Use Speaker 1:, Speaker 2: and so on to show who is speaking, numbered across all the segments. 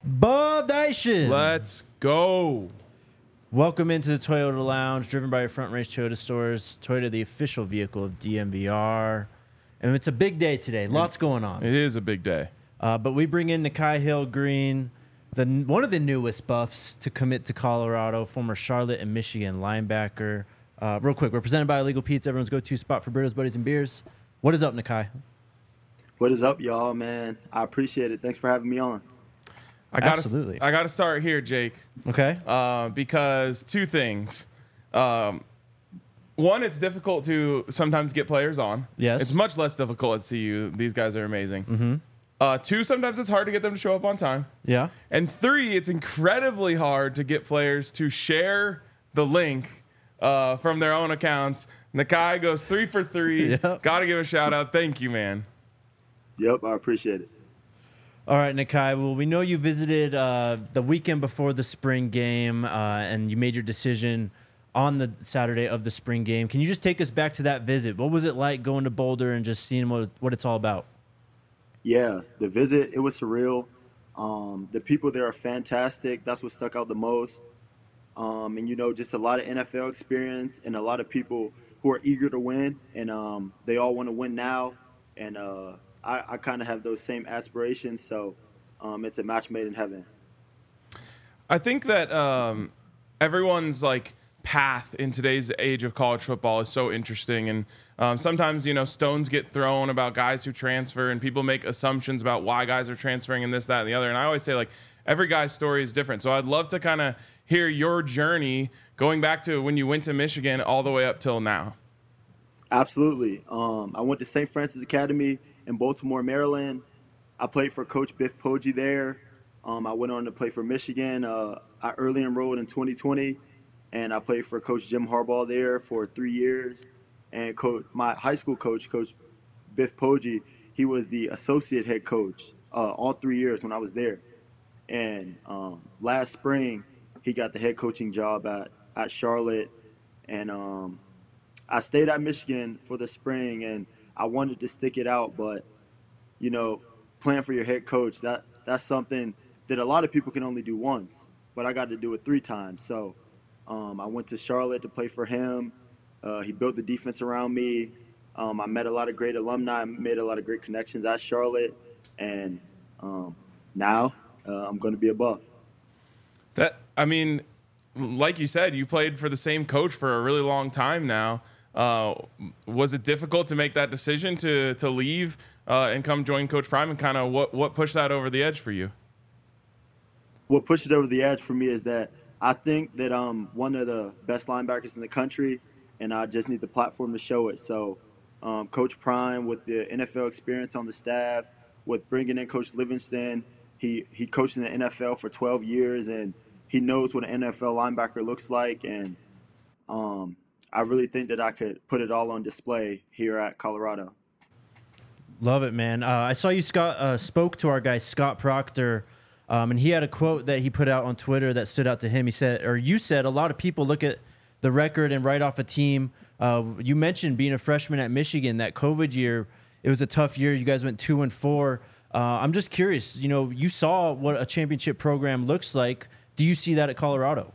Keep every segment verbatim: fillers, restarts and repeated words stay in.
Speaker 1: Bob Nation.
Speaker 2: Let's go.
Speaker 1: Welcome into the Toyota Lounge, driven by your Front Range Toyota stores. Toyota, the official vehicle of D M V R. And it's a big day today. Lots going on.
Speaker 2: It is a big day.
Speaker 1: Uh, but we bring in Nikhai Hill-Green, the one of the newest buffs to commit to Colorado, former Charlotte and Michigan linebacker. Uh, real quick, we're presented by Illegal Pete's, everyone's go-to spot for burritos, buddies, and beers. What is up, Nikhai?
Speaker 3: What is up, y'all, man? I appreciate it. Thanks for having me on.
Speaker 2: I gotta,
Speaker 1: Absolutely.
Speaker 2: I got to start here, Jake.
Speaker 1: Okay.
Speaker 2: Uh, because two things. Um, one, it's difficult to sometimes get players on.
Speaker 1: Yes.
Speaker 2: It's much less difficult at C U. These guys are amazing.
Speaker 1: Mm-hmm.
Speaker 2: Uh, two, sometimes it's hard to get them to show up on time.
Speaker 1: Yeah.
Speaker 2: And three, it's incredibly hard to get players to share the link uh, from their own accounts. Nikhai goes three for three.
Speaker 1: Yep.
Speaker 2: Got to give a shout out. Thank you, man.
Speaker 3: Yep, I appreciate it.
Speaker 1: All right, Nikhai. Well, we know you visited uh, the weekend before the spring game, uh, and you made your decision on the Saturday of the spring game. Can you just take us back to that visit? What was it like going to Boulder and just seeing what what it's all about?
Speaker 3: Yeah, the visit, it was surreal. Um, the people there are fantastic. That's what stuck out the most. Um, and, you know, just a lot of N F L experience and a lot of people who are eager to win, and um, they all want to win now. And uh, I, I kind of have those same aspirations, so um, it's a match made in heaven.
Speaker 2: I think that um, everyone's like path in today's age of college football is so interesting, and um, sometimes you know stones get thrown about guys who transfer, and people make assumptions about why guys are transferring and this, that, and the other. And I always say like every guy's story is different. So I'd love to kind of hear your journey going back to when you went to Michigan all the way up till now.
Speaker 3: Absolutely. Um, I went to Saint Francis Academy in Baltimore, Maryland. I played for Coach Biff Poggi there. Um, I went on to play for Michigan. Uh, I early enrolled in twenty twenty, and I played for Coach Jim Harbaugh there for three years. And coach, my high school coach, Coach Biff Poggi, he was the associate head coach uh, all three years when I was there. And um, last spring, he got the head coaching job at, at Charlotte. And um, I stayed at Michigan for the spring, and I wanted to stick it out, but, you know, playing for your head coach, that that's something that a lot of people can only do once, but I got to do it three times. So um, I went to Charlotte to play for him. Uh, he built the defense around me. Um, I met a lot of great alumni, made a lot of great connections at Charlotte, and um, now uh, I'm going to be a Buff.
Speaker 2: That I mean, like you said, you played for the same coach for a really long time now. Uh, was it difficult to make that decision to to leave uh, and come join Coach Prime, and kind of what, what pushed that over the edge for you?
Speaker 3: What pushed it over the edge for me is that I think that I'm one of the best linebackers in the country, and I just need the platform to show it. So um, Coach Prime, with the N F L experience on the staff, with bringing in Coach Livingston, he, he coached in the N F L for twelve years, and he knows what an N F L linebacker looks like, and um, I really think that I could put it all on display here at Colorado.
Speaker 1: Love it, man. Uh, I saw you Scott, uh, spoke to our guy, Scott Proctor, um, and he had a quote that he put out on Twitter that stood out to him. He said, or you said, a lot of people look at the record and write off a team. Uh, you mentioned being a freshman at Michigan, that COVID year, it was a tough year. You guys went two and four. Uh, I'm just curious, you know, you saw what a championship program looks like. Do you see that at Colorado?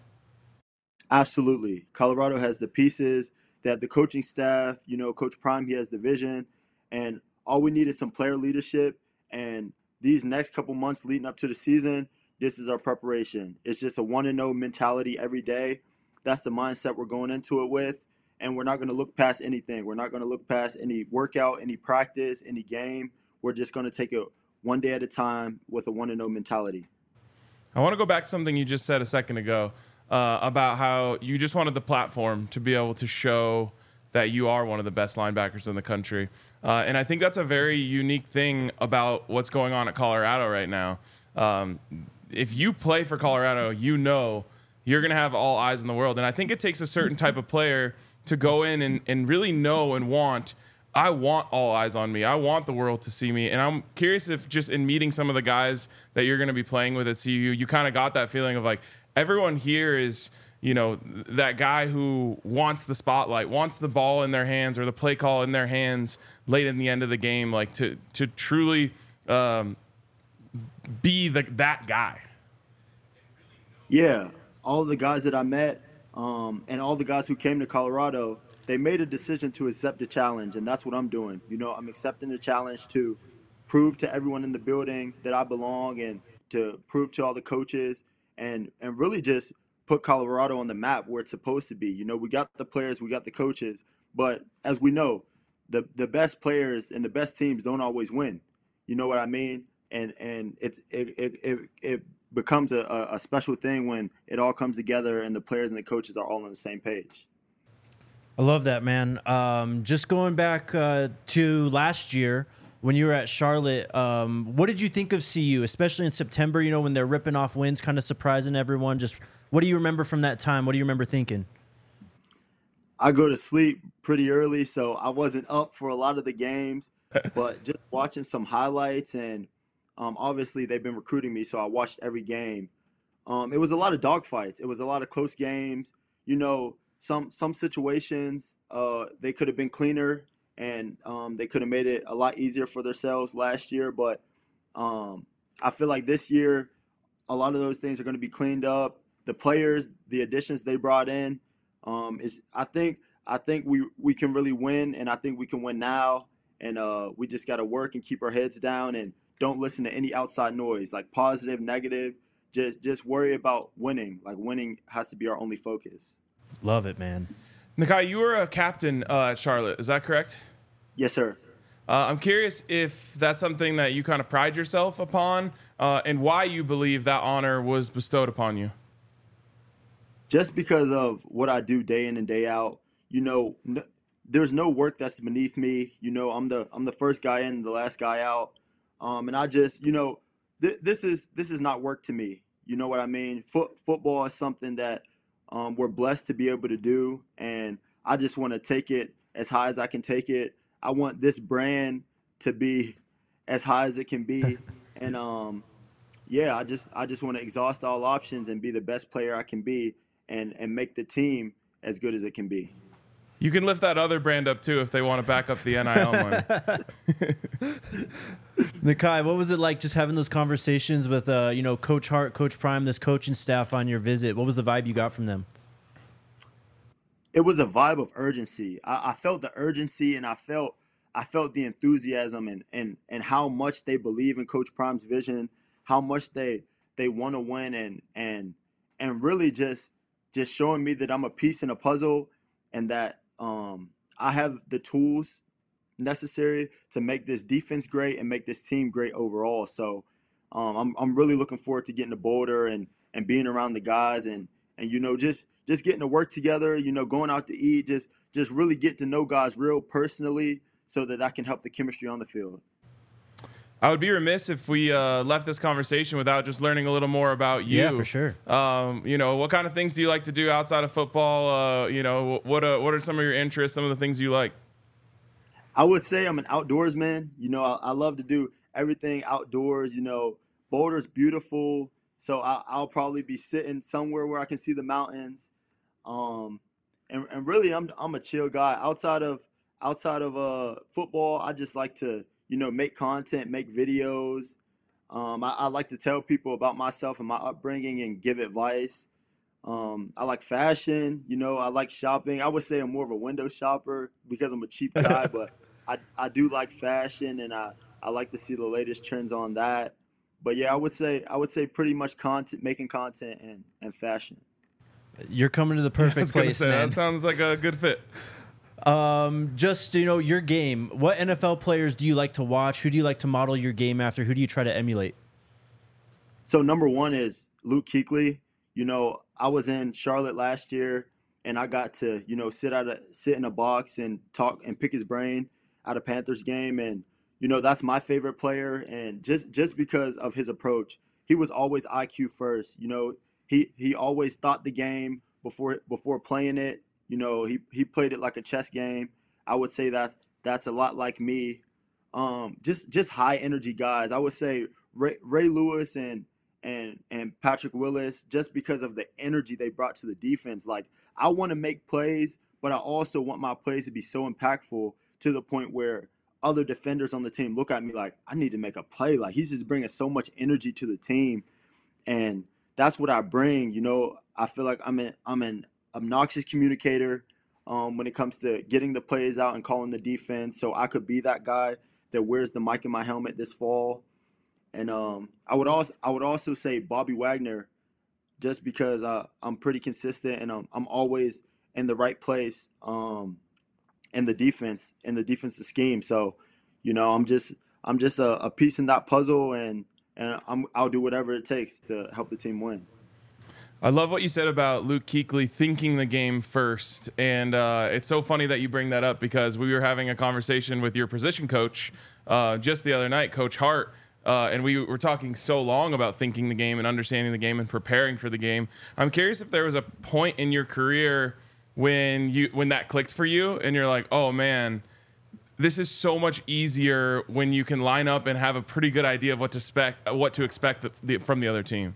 Speaker 3: Absolutely. Colorado has the pieces. They have the coaching staff. You know, Coach Prime, he has the vision. And all we need is some player leadership. And these next couple months leading up to the season, this is our preparation. It's just a one and oh mentality every day. That's the mindset we're going into it with. And we're not going to look past anything. We're not going to look past any workout, any practice, any game. We're just going to take it one day at a time with a one and oh mentality.
Speaker 2: I want to go back to something you just said a second ago. Uh, about how you just wanted the platform to be able to show that you are one of the best linebackers in the country. Uh, and I think that's a very unique thing about what's going on at Colorado right now. Um, if you play for Colorado, you know you're going to have all eyes in the world. And I think it takes a certain type of player to go in and, and really know and want, I want all eyes on me. I want the world to see me. And I'm curious if just in meeting some of the guys that you're going to be playing with at C U, you kind of got that feeling of like, everyone here is, you know, that guy who wants the spotlight, wants the ball in their hands or the play call in their hands late in the end of the game, like to to truly um, be the, that guy.
Speaker 3: Yeah, all the guys that I met, um, and all the guys who came to Colorado, they made a decision to accept the challenge, and that's what I'm doing. You know, I'm accepting the challenge to prove to everyone in the building that I belong, and to prove to all the coaches, and and really just put Colorado on the map where it's supposed to be. You know, we got the players, we got the coaches, but as we know, the the best players and the best teams don't always win. You know what I mean? And and it it it it, it becomes a, a special thing when it all comes together and the players and the coaches are all on the same page.
Speaker 1: I love that, man. Um, just going back uh, to last year when you were at Charlotte, um, what did you think of C U, especially in September, you know, when they're ripping off wins, kind of surprising everyone? Just what do you remember from that time? What do you remember thinking?
Speaker 3: I go to sleep pretty early, so I wasn't up for a lot of the games, but just watching some highlights, and um, obviously they've been recruiting me, so I watched every game. Um, it was a lot of dogfights. It was a lot of close games. You know, some some situations uh, they could have been cleaner, and um, they could have made it a lot easier for themselves last year. But um, I feel like this year, a lot of those things are going to be cleaned up. The players, the additions they brought in, um, is I think I think we we can really win, and I think we can win now. And uh, we just got to work and keep our heads down and don't listen to any outside noise, like positive, negative. Just just worry about winning. Like winning has to be our only focus.
Speaker 1: Love it, man.
Speaker 2: Nakai, you were a captain uh, at Charlotte. Is that correct?
Speaker 3: Yes, sir.
Speaker 2: Uh, I'm curious if that's something that you kind of pride yourself upon, uh, and why you believe that honor was bestowed upon you.
Speaker 3: Just because of what I do day in and day out. You know, n- there's no work that's beneath me. You know, I'm the I'm the first guy in, the last guy out. Um, and I just, you know, th- this is this is not work to me. You know what I mean? Foot football is something that um, we're blessed to be able to do, and I just want to take it as high as I can take it. I want this brand to be as high as it can be, and um, yeah, I just I just want to exhaust all options and be the best player I can be, and and make the team as good as it can be.
Speaker 2: You can lift that other brand up too if they want to back up the N I L money.
Speaker 1: Nakai, what was it like just having those conversations with, uh, you know, Coach Hart, Coach Prime, this coaching staff on your visit? What was the vibe you got from them?
Speaker 3: It was a vibe of urgency. I, I felt the urgency, and I felt I felt the enthusiasm, and and and how much they believe in Coach Prime's vision, how much they they want to win, and and and really just just showing me that I'm a piece in a puzzle, and that um, I have the tools necessary to make this defense great and make this team great overall. So um, I'm I'm really looking forward to getting to Boulder, and and being around the guys, and and you know just just getting to work together. You know, going out to eat, just just really get to know guys real personally, so that I can help the chemistry on the field.
Speaker 2: I would be remiss if we uh, left this conversation without just learning a little more about you.
Speaker 1: Yeah, for sure.
Speaker 2: Um, you know, what kind of things do you like to do outside of football? Uh, you know, what uh, what are some of your interests? Some of the things you like?
Speaker 3: I would say I'm an outdoorsman. You know, I, I love to do everything outdoors. You know, Boulder's beautiful, so I, I'll probably be sitting somewhere where I can see the mountains. Um, and, and really, I'm I'm a chill guy. Outside of outside of uh football, I just like to you know make content, make videos. Um, I, I like to tell people about myself and my upbringing and give advice. Um, I like fashion. You know, I like shopping. I would say I'm more of a window shopper because I'm a cheap guy, but I I do like fashion, and I I like to see the latest trends on that. But yeah, I would say I would say pretty much content, making content and and fashion.
Speaker 1: You're coming to the
Speaker 2: I was
Speaker 1: perfect
Speaker 2: gonna
Speaker 1: place,
Speaker 2: say,
Speaker 1: man.
Speaker 2: that sounds like a good fit.
Speaker 1: Um, just, you know, your game. What N F L players do you like to watch? Who do you like to model your game after? Who do you try to emulate?
Speaker 3: So number one is Luke Kuechly. You know, I was in Charlotte last year, and I got to, you know, sit out a sit in a box and talk and pick his brain at a Panthers game, and you know that's my favorite player. And just just because of his approach, he was always I Q first. You know, he he always thought the game before before playing it. You know, he he played it like a chess game. I would say that that's a lot like me. Um, just just high energy guys. I would say Ray, Ray Lewis and and and Patrick Willis, just because of the energy they brought to the defense. Like, I want to make plays, but I also want my plays to be so impactful to the point where other defenders on the team look at me like, I need to make a play. Like, he's just bringing so much energy to the team, and that's what I bring. You know, I feel like I'm an I'm an obnoxious communicator um, when it comes to getting the plays out and calling the defense. So I could be that guy that wears the mic in my helmet this fall. And um, I would also I would also say Bobby Wagner, just because uh, I'm pretty consistent and um, I'm always in the right place um, in the defense in the defensive scheme. So, you know, I'm just I'm just a, a piece in that puzzle, and and I'm, I'll do whatever it takes to help the team win.
Speaker 2: I love what you said about Luke Kuechly thinking the game first. And uh, it's so funny that you bring that up, because we were having a conversation with your position coach uh, just the other night, Coach Hart, uh, and we were talking so long about thinking the game and understanding the game and preparing for the game. I'm curious if there was a point in your career when you when that clicked for you and you're like, oh, man, this is so much easier when you can line up and have a pretty good idea of what to expect, what to expect the, the, from the other team.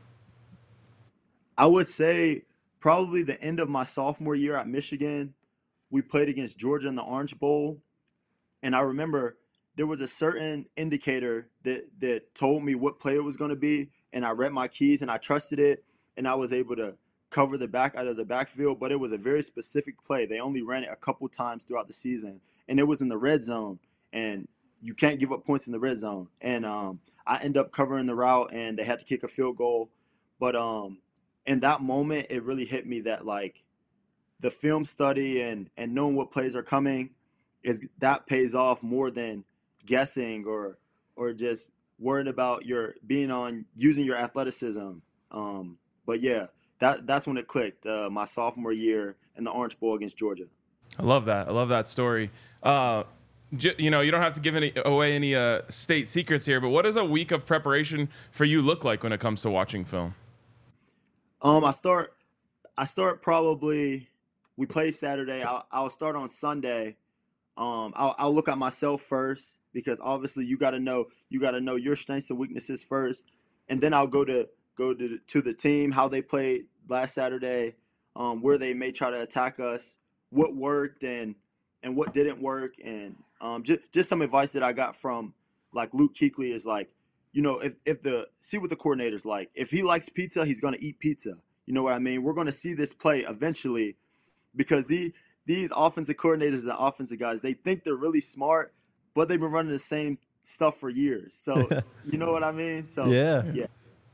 Speaker 3: I would say probably the end of my sophomore year at Michigan, we played against Georgia in the Orange Bowl. And I remember there was a certain indicator that, that told me what play it was going to be. And I read my keys and I trusted it. And I was able to cover the back out of the backfield. But it was a very specific play. They only ran it a couple times throughout the season. And it was in the red zone. And you can't give up points in the red zone. And um, I ended up covering the route, and they had to kick a field goal. But um, in that moment, it really hit me that, like, the film study and, and knowing what plays are coming, is that pays off more than guessing or or just worrying about your being on using your athleticism. Um, but yeah, that that's when it clicked. Uh, my sophomore year in the Orange Bowl against Georgia.
Speaker 2: I love that. I love that story. Uh, j- you know, you don't have to give any away any uh, state secrets here, but what does a week of preparation for you look like when it comes to watching film?
Speaker 3: Um, I start, I start probably. We play Saturday. I'll, I'll start on Sunday. Um, I'll, I'll look at myself first, because obviously you got to know you got to know your strengths and weaknesses first, and then I'll go to go to to the team, how they played last Saturday, um, where they may try to attack us, what worked and and what didn't work, and um, just just some advice that I got from like Luke Kuechly is like, you know, if if the see what the coordinator's like. If he likes pizza, he's gonna eat pizza. You know what I mean? We're gonna see this play eventually, because the these offensive coordinators and offensive guys, they think they're really smart, but they've been running the same stuff for years. So you know what I mean? So
Speaker 1: yeah,
Speaker 3: yeah.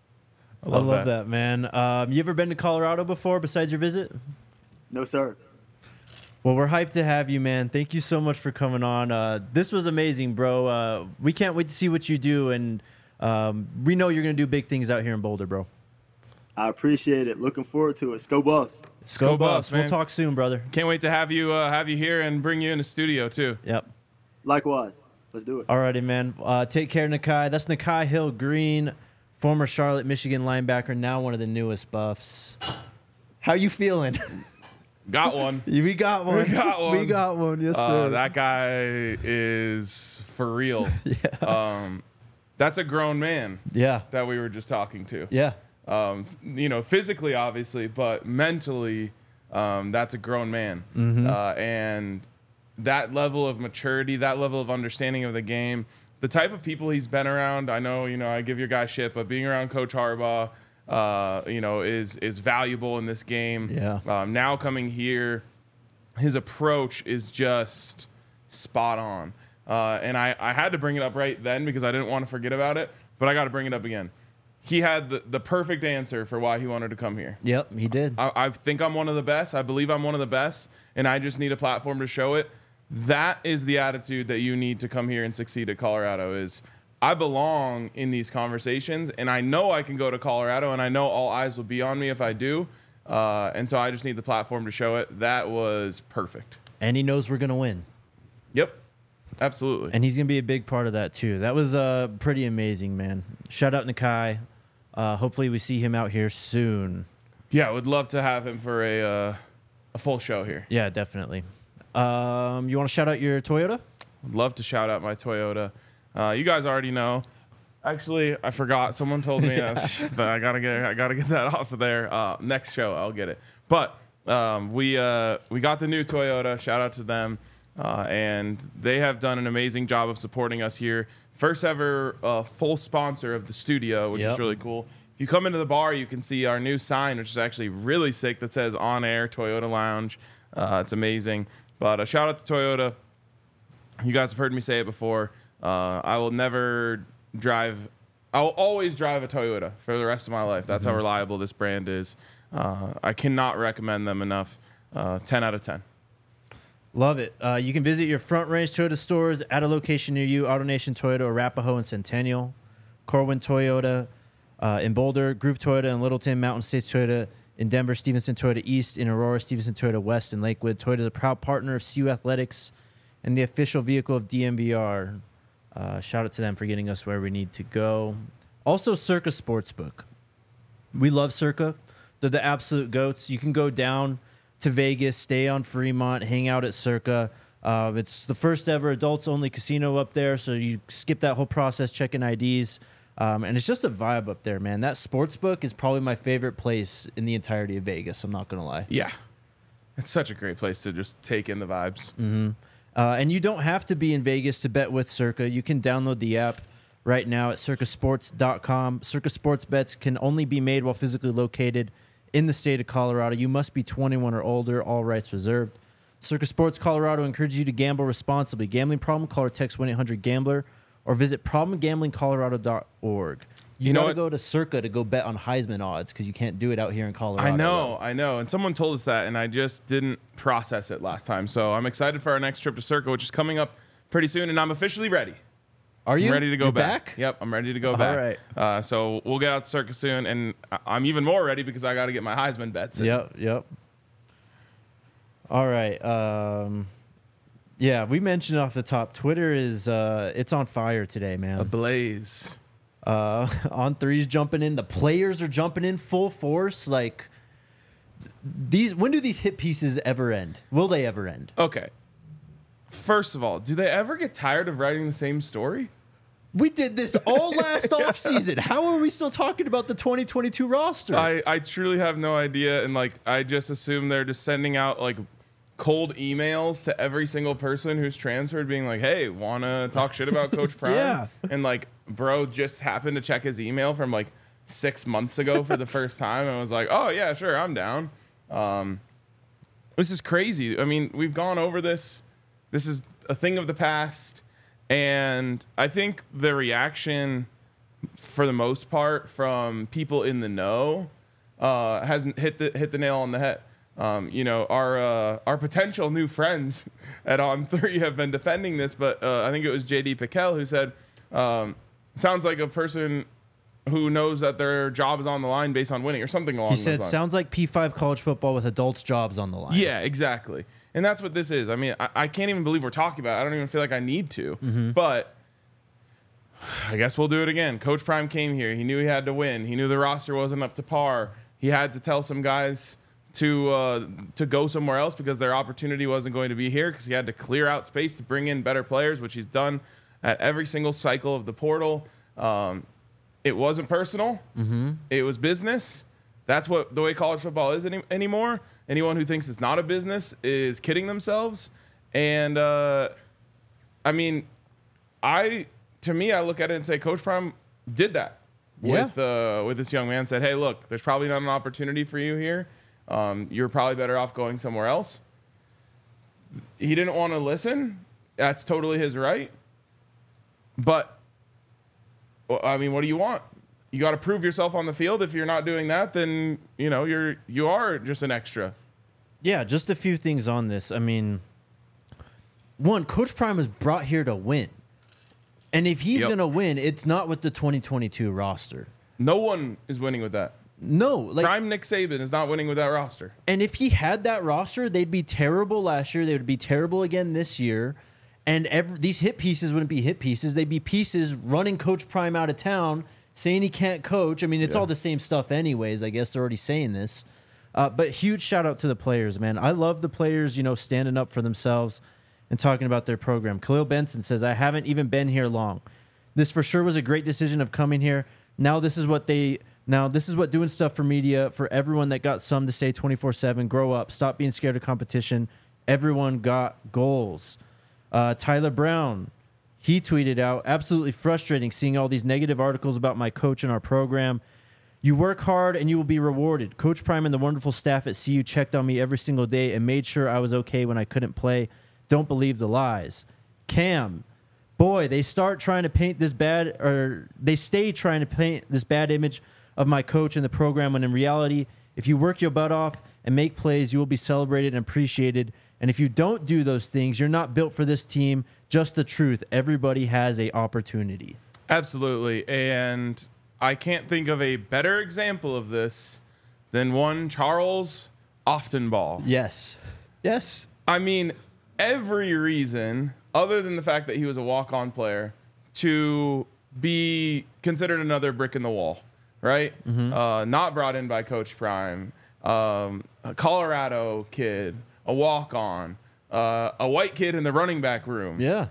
Speaker 2: I love,
Speaker 1: I love
Speaker 2: that.
Speaker 1: that, man. Um, you ever been to Colorado before besides your visit?
Speaker 3: No, sir.
Speaker 1: Well, we're hyped to have you, man. Thank you so much for coming on. Uh, this was amazing, bro. Uh, we can't wait to see what you do, and um, we know you're going to do big things out here in Boulder, bro.
Speaker 3: I appreciate it. Looking forward to it. Go Buffs.
Speaker 2: Go Buffs, man.
Speaker 1: We'll talk soon, brother.
Speaker 2: Can't wait to have you uh, have you here and bring you in the studio too.
Speaker 1: Yep.
Speaker 3: Likewise. Let's do it.
Speaker 1: Alrighty, man. Uh, take care, Nakai. That's Nakai Hill Green, former Charlotte, Michigan linebacker, now one of the newest Buffs. How you feeling?
Speaker 2: Got one.
Speaker 1: We got one.
Speaker 2: We got one.
Speaker 1: We got one. Yes,
Speaker 2: Uh,
Speaker 1: sir.
Speaker 2: that guy is for real.
Speaker 1: yeah.
Speaker 2: Um, that's a grown man
Speaker 1: yeah.
Speaker 2: that we were just talking to.
Speaker 1: Yeah.
Speaker 2: Um, you know, physically, obviously, but mentally, um, that's a grown man.
Speaker 1: Mm-hmm.
Speaker 2: Uh, and that level of maturity, that level of understanding of the game, the type of people he's been around. I know, you know, I give your guy shit, but being around Coach Harbaugh, uh, you know, is is valuable in this game.
Speaker 1: Yeah.
Speaker 2: Um, now coming here, his approach is just spot on. Uh, and I, I had to bring it up right then because I didn't want to forget about it, but I got to bring it up again. He had the, the perfect answer for why he wanted to come here.
Speaker 1: Yep, he did.
Speaker 2: I, I think I'm one of the best. I believe I'm one of the best, and I just need a platform to show it. That is the attitude that you need to come here and succeed at Colorado is, I belong in these conversations, and I know I can go to Colorado, and I know all eyes will be on me if I do. Uh, and so I just need the platform to show it. That was perfect.
Speaker 1: And he knows we're going to win.
Speaker 2: Yep, absolutely.
Speaker 1: And he's going to be a big part of that, too. That was uh, pretty amazing, man. Shout out Nakai. Uh, hopefully we see him out here soon.
Speaker 2: Yeah, I would love to have him for a uh, a full show here.
Speaker 1: Yeah, definitely. Um, you want to shout out your Toyota?
Speaker 2: I'd love to shout out my Toyota. Uh, you guys already know. Actually, I forgot. Someone told me
Speaker 1: Yeah.
Speaker 2: that I gotta get I gotta get that off of there. Uh, next show, I'll get it. But um, we uh, we got the new Toyota. Shout out to them, uh, and they have done an amazing job of supporting us here. First ever uh, full sponsor of the studio, which
Speaker 1: Yep.
Speaker 2: is really cool. If you come into the bar, you can see our new sign, which is actually really sick, that says On Air Toyota Lounge. Uh, it's amazing. But a shout out to Toyota. You guys have heard me say it before. Uh, I will never drive. I'll always drive a Toyota for the rest of my life. That's mm-hmm. how reliable this brand is. Uh, I cannot recommend them enough. Uh, ten out of ten.
Speaker 1: Love it. Uh, you can visit your Front Range Toyota stores at a location near you. AutoNation Toyota, Arapahoe, and Centennial. Corwin Toyota uh, in Boulder. Groove Toyota in Littleton. Mountain States Toyota in Denver. Stevenson Toyota East in Aurora. Stevenson Toyota West in Lakewood. Toyota is a proud partner of C U Athletics and the official vehicle of D M V R. Uh, shout out to them for getting us where we need to go. Also, Circa Sportsbook. We love Circa. They're the absolute goats. You can go down to Vegas, stay on Fremont, hang out at Circa. Uh, it's the first ever adults-only casino up there, so you skip that whole process, checking I Ds. Um, and it's just a vibe up there, man. That Sportsbook is probably my favorite place in the entirety of Vegas, I'm not going to lie.
Speaker 2: Yeah. It's such a great place to just take in the vibes.
Speaker 1: Mm-hmm. Uh, and you don't have to be in Vegas to bet with Circa. You can download the app right now at circa sports dot com. Circa Sports bets can only be made while physically located in the state of Colorado. You must be twenty-one or older, all rights reserved. Circa Sports Colorado encourages you to gamble responsibly. Gambling problem? Call or text one eight hundred gambler or visit problem gambling colorado dot org. You, you know got to go to Circa to go bet on Heisman odds because you can't do it out here in Colorado.
Speaker 2: I know,
Speaker 1: though.
Speaker 2: I know. And someone told us that, and I just didn't process it last time. So I'm excited for our next trip to Circa, which is coming up pretty soon, and I'm officially ready.
Speaker 1: Are you?
Speaker 2: I'm ready to go back.
Speaker 1: back?
Speaker 2: Yep, I'm ready to go back.
Speaker 1: All right.
Speaker 2: Uh, so we'll get out to Circa soon, and I'm even more ready because I got to get my Heisman bets in.
Speaker 1: Yep, yep. All right. Um, yeah, we mentioned off the top, Twitter is uh, it's on fire today, man.
Speaker 2: Ablaze.
Speaker 1: Uh, On three's jumping in. The players are jumping in full force. Like these, when do these hit pieces ever end? Will they ever end?
Speaker 2: Okay. First of all, do they ever get tired of writing the same story?
Speaker 1: We did this all last offseason. How are we still talking about the twenty twenty-two roster?
Speaker 2: I, I truly have no idea. And like, I just assume they're just sending out like cold emails to every single person who's transferred being like, hey, want to talk shit about Coach Prime?
Speaker 1: Yeah.
Speaker 2: And like, bro just happened to check his email from like six months ago for the first time and was like, oh yeah, sure, I'm down. Um, this is crazy. I mean, we've gone over this. This is a thing of the past. And I think the reaction, for the most part, from people in the know, uh, hasn't hit the hit the nail on the head. Um, you know, our uh, our potential new friends at On Three have been defending this, but uh, I think it was J D Piquel who said, um, "Sounds like a person who knows that their job is on the line based on winning," or something along.
Speaker 1: He
Speaker 2: those
Speaker 1: said,
Speaker 2: lines.
Speaker 1: "Sounds like P five college football with adults' jobs on the line."
Speaker 2: Yeah, exactly. And that's what this is. I mean, I, I can't even believe we're talking about it. I don't even feel like I need to.
Speaker 1: Mm-hmm.
Speaker 2: But I guess we'll do it again. Coach Prime came here. He knew he had to win. He knew the roster wasn't up to par. He had to tell some guys to uh, to go somewhere else because their opportunity wasn't going to be here because he had to clear out space to bring in better players, which he's done at every single cycle of the portal. Um, it wasn't personal.
Speaker 1: Mm-hmm.
Speaker 2: It was business. That's what the way college football is any, anymore. Anyone who thinks it's not a business is kidding themselves. And, uh, I mean, I to me, I look at it and say Coach Prime did that
Speaker 1: yeah.
Speaker 2: with uh, with this young man. Said, hey, look, there's probably not an opportunity for you here. Um, you're probably better off going somewhere else. He didn't want to listen. That's totally his right. But, I mean, what do you want? You got to prove yourself on the field. If you're not doing that, then, you know, you're you are just an extra.
Speaker 1: Yeah, just a few things on this. I mean, one, Coach Prime was brought here to win. And if he's
Speaker 2: Yep.
Speaker 1: going to win, it's not with the twenty twenty-two roster.
Speaker 2: No one is winning with that.
Speaker 1: No. Like,
Speaker 2: Prime Nick Saban is not winning with that roster.
Speaker 1: and if he had that roster, they'd be terrible last year. They would be terrible again this year. And every, these hit pieces wouldn't be hit pieces. They'd be pieces running Coach Prime out of town, saying he can't coach. I mean, it's
Speaker 2: Yeah.
Speaker 1: all the same stuff anyways. I guess they're already saying this. Uh, but huge shout out to the players, man. I love the players, you know, standing up for themselves and talking about their program. Khalil Benson says, I haven't even been here long. This for sure was a great decision of coming here. Now this is what they now this is what doing stuff for media, for everyone that got some to say twenty-four seven, grow up, stop being scared of competition. Everyone got goals. Uh, Tyler Brown, he tweeted out, absolutely frustrating seeing all these negative articles about my coach and our program. You work hard and you will be rewarded. Coach Prime and the wonderful staff at C U checked on me every single day and made sure I was okay when I couldn't play. Don't believe the lies. Cam, boy, they start trying to paint this bad, or they stay trying to paint this bad image of my coach and the program, when in reality, if you work your butt off and make plays, you will be celebrated and appreciated. And if you don't do those things, you're not built for this team. Just the truth. Everybody has a opportunity.
Speaker 2: Absolutely. And I can't think of a better example of this than one Charles Oftenball.
Speaker 1: Yes. Yes.
Speaker 2: I mean, every reason other than the fact that he was a walk-on player to be considered another brick in the wall, right? Mm-hmm. Uh, not brought in by Coach Prime, um, a Colorado kid, a walk-on, uh, a white kid in the running back room.
Speaker 1: Yeah.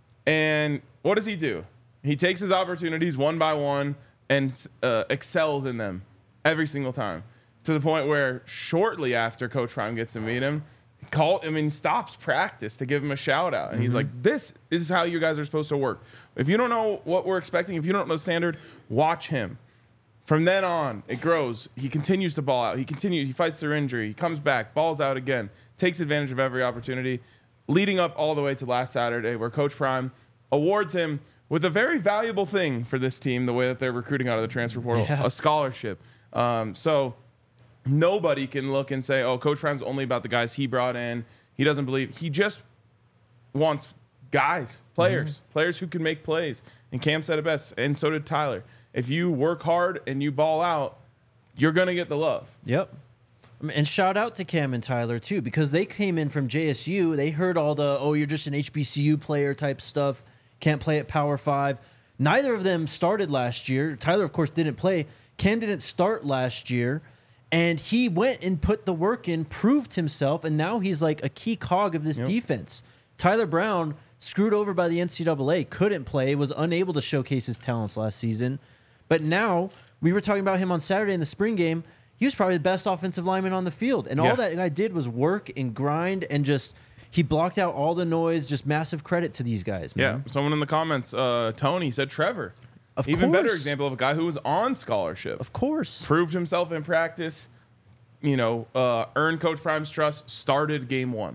Speaker 2: And what does he do? He takes his opportunities one by one and uh, excels in them every single time, to the point where shortly after Coach Prime gets to meet him, call, I mean, stops practice to give him a shout out. And mm-hmm. he's like, this is how you guys are supposed to work. If you don't know what we're expecting, if you don't know standard, watch him. From then on, it grows. He continues to ball out. He continues. He fights through injury. He comes back, balls out again, takes advantage of every opportunity, leading up all the way to last Saturday, where Coach Prime awards him with a very valuable thing for this team, the way that they're recruiting out of the transfer portal, yeah. a scholarship. Um, so nobody can look and say, oh, Coach Prime's only about the guys he brought in. He doesn't believe. He just wants guys, players, mm-hmm. players who can make plays. And Cam said it best, and so did Tyler. If you work hard and you ball out, you're going to get the love.
Speaker 1: Yep. And shout out to Cam and Tyler, too, because they came in from J S U. They heard all the, oh, you're just an H B C U player type stuff. Can't play at Power Five. Neither of them started last year. Tyler, of course, didn't play. Cam didn't start last year. And he went and put the work in, proved himself, and now he's like a key cog of this yep. defense. Tyler Brown, screwed over by the N C double A, couldn't play, was unable to showcase his talents last season. But now, we were talking about him on Saturday in the spring game. He was probably the best offensive lineman on the field. And yeah. all that guy did was work and grind and just, he blocked out all the noise. Just massive credit to these guys, man.
Speaker 2: Yeah, someone in the comments, uh, Tony, said Trevor.
Speaker 1: Of
Speaker 2: Even
Speaker 1: course.
Speaker 2: better example of a guy who was on scholarship.
Speaker 1: Of course.
Speaker 2: Proved himself in practice, you know, uh, earned Coach Prime's trust, started game one.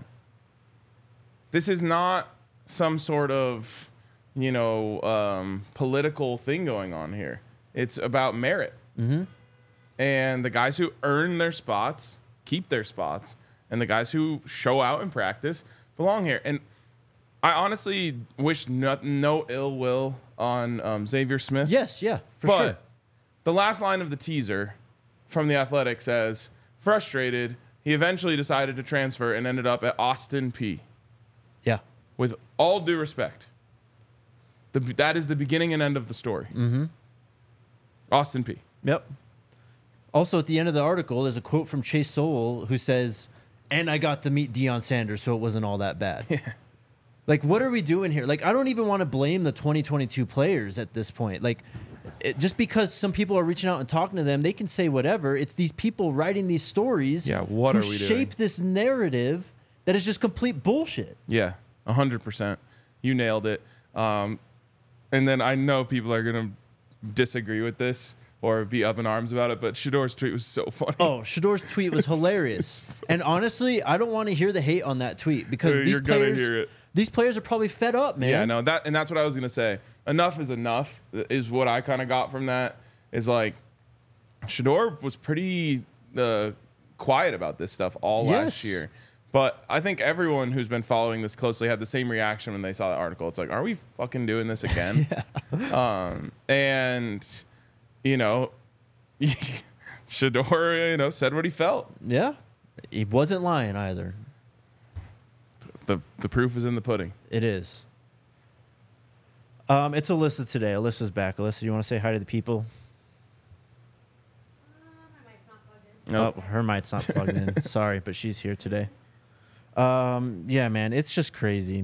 Speaker 2: This is not some sort of, you know, um, political thing going on here. It's about merit.
Speaker 1: Mm-hmm.
Speaker 2: And the guys who earn their spots keep their spots. And the guys who show out in practice belong here. And I honestly wish no, no ill will on um, Xavier Smith.
Speaker 1: Yes, yeah, for
Speaker 2: but
Speaker 1: sure.
Speaker 2: The last line of the teaser from The Athletic says, frustrated, he eventually decided to transfer and ended up at Austin Peay.
Speaker 1: Yeah.
Speaker 2: With all due respect, the, that is the beginning and end of the story.
Speaker 1: Mm-hmm.
Speaker 2: Austin Peay.
Speaker 1: Yep. Also, at the end of the article, there's a quote from Chase Sowell who says, and I got to meet Deion Sanders, so it wasn't all that bad.
Speaker 2: Yeah.
Speaker 1: Like, what are we doing here? Like, I don't even want to blame the twenty twenty-two players at this point. Like, it, just because some people are reaching out and talking to them, they can say whatever. It's these people writing these stories
Speaker 2: yeah, what
Speaker 1: who
Speaker 2: are we
Speaker 1: shape
Speaker 2: doing?
Speaker 1: this narrative that is just complete bullshit.
Speaker 2: Yeah, one hundred percent. You nailed it. Um, and then I know people are going to disagree with this or be up in arms about it, but Shador's tweet was so funny.
Speaker 1: Oh, Shador's tweet was hilarious. so and honestly, I don't want to hear the hate on that tweet because
Speaker 2: You're
Speaker 1: these
Speaker 2: gonna
Speaker 1: players,
Speaker 2: hear it.
Speaker 1: these players are probably fed up, man.
Speaker 2: Yeah, no, that and that's what I was gonna say. Enough is enough is what I kind of got from that. Is like Shador was pretty uh, quiet about this stuff all
Speaker 1: Yes.
Speaker 2: last year. But I think everyone who's been following this closely had the same reaction when they saw that article. It's like, are we fucking doing this again? yeah. Um, and you know, Shador, you know, said what he felt.
Speaker 1: Yeah, he wasn't lying either.
Speaker 2: The the proof is in the pudding.
Speaker 1: It is. Um, it's Alyssa today. Alyssa's back. Alyssa, you want to say hi to the people?
Speaker 2: Nope.
Speaker 1: Oh, her mic's not plugged in. Sorry, but she's here today. Um, yeah, man, it's just crazy.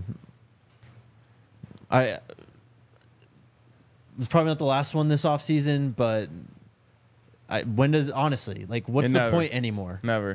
Speaker 1: I it's probably not the last one this offseason, but I, when does honestly like what's
Speaker 2: It
Speaker 1: the
Speaker 2: never.
Speaker 1: point anymore?
Speaker 2: Never.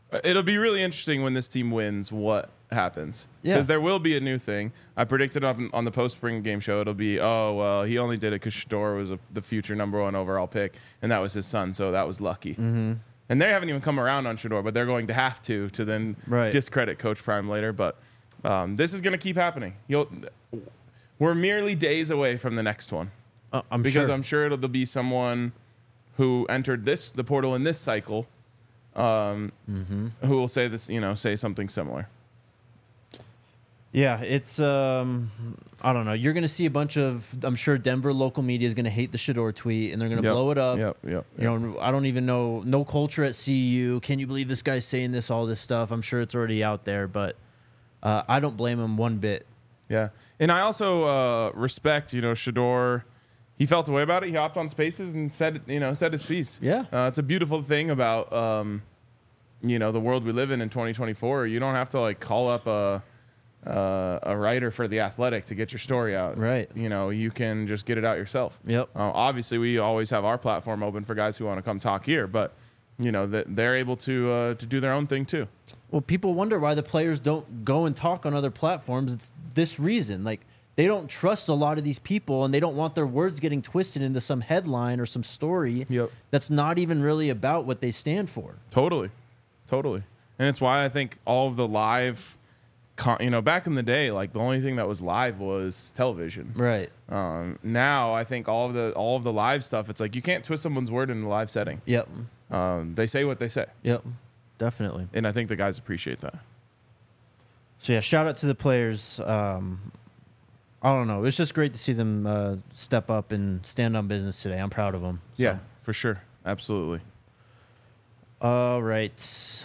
Speaker 2: It'll be really interesting when this team wins what happens.
Speaker 1: Yeah.
Speaker 2: Because there will be a new thing. I predicted on, on the post-spring game show, it'll be, oh, well, he only did it because Shedeur was a, the future number one overall pick, and that was his son, so that was lucky.
Speaker 1: Mm-hmm.
Speaker 2: And they haven't even come around on Shedeur, but they're going to have to to then
Speaker 1: Right.
Speaker 2: discredit Coach Prime later. But um, this is going to keep happening. You'll, we're merely days away from the next one.
Speaker 1: Uh, I'm
Speaker 2: because
Speaker 1: sure.
Speaker 2: I'm sure it'll be someone who entered this the portal in this cycle, um,
Speaker 1: mm-hmm.
Speaker 2: who will say this, you know, say something similar.
Speaker 1: Yeah, it's um, I don't know. You're gonna see a bunch of. I'm sure Denver local media is gonna hate the Shedeur tweet, and they're gonna
Speaker 2: Yep,
Speaker 1: blow it up.
Speaker 2: Yep, yep.
Speaker 1: You know, I don't even know. No culture at C U. Can you believe this guy's saying this? All this stuff. I'm sure it's already out there, but uh, I don't blame him one bit.
Speaker 2: Yeah, and I also uh, respect, you know, Shedeur. He felt a way about it. He hopped on Spaces and said, you know, said his piece.
Speaker 1: Yeah,
Speaker 2: uh, it's a beautiful thing about, um, you know, the world we live in in twenty twenty-four. You don't have to like call up a uh, a writer for The Athletic to get your story out.
Speaker 1: Right.
Speaker 2: You know, you can just get it out yourself.
Speaker 1: Yep.
Speaker 2: Uh, obviously, we always have our platform open for guys who want to come talk here, but you know that they're able to uh, to do their own thing too.
Speaker 1: Well, people wonder why the players don't go and talk on other platforms. It's this reason. Like, they don't trust a lot of these people, and they don't want their words getting twisted into some headline or some story
Speaker 2: Yep.
Speaker 1: that's not even really about what they stand for.
Speaker 2: Totally, totally, and it's why I think all of the live, con- you know, back in the day, like the only thing that was live was television.
Speaker 1: Right.
Speaker 2: Um, now I think all of the all of the live stuff, it's like you can't twist someone's word in a live setting.
Speaker 1: Yep.
Speaker 2: Um, they say what they say,
Speaker 1: Yep. Definitely.
Speaker 2: and I think the guys appreciate that.
Speaker 1: So, yeah, shout out to the players. Um, I don't know. It's just great to see them uh, step up and stand on business today. I'm proud of them. So.
Speaker 2: Yeah, for sure, absolutely.
Speaker 1: All right.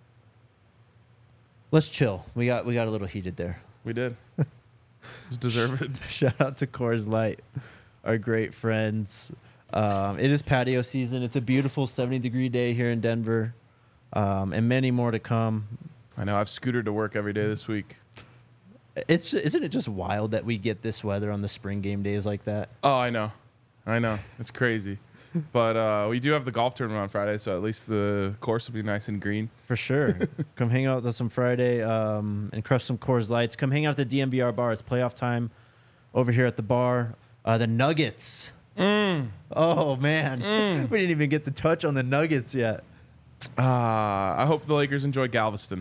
Speaker 1: Let's chill. We got we got a little heated there.
Speaker 2: We did. It's deserved.
Speaker 1: Shout out to Coors Light, our great friends. Um, it is patio season. It's a beautiful seventy degree day here in Denver, um, and many more to come.
Speaker 2: I know. I've scootered to work every day this week.
Speaker 1: It's isn't it just wild that we get this weather on the spring game days like that?
Speaker 2: Oh, I know. I know. It's crazy. But uh, we do have the golf tournament on Friday, so at least the course will be nice and green.
Speaker 1: For sure. Come hang out with us on Friday um, and crush some Coors Lights. Come hang out at the D M V R bar. It's playoff time over here at the bar. Uh, the Nuggets.
Speaker 2: Mm.
Speaker 1: Oh, man.
Speaker 2: Mm.
Speaker 1: We didn't even get the touch on the Nuggets yet.
Speaker 2: Uh, I hope the Lakers enjoy Galveston.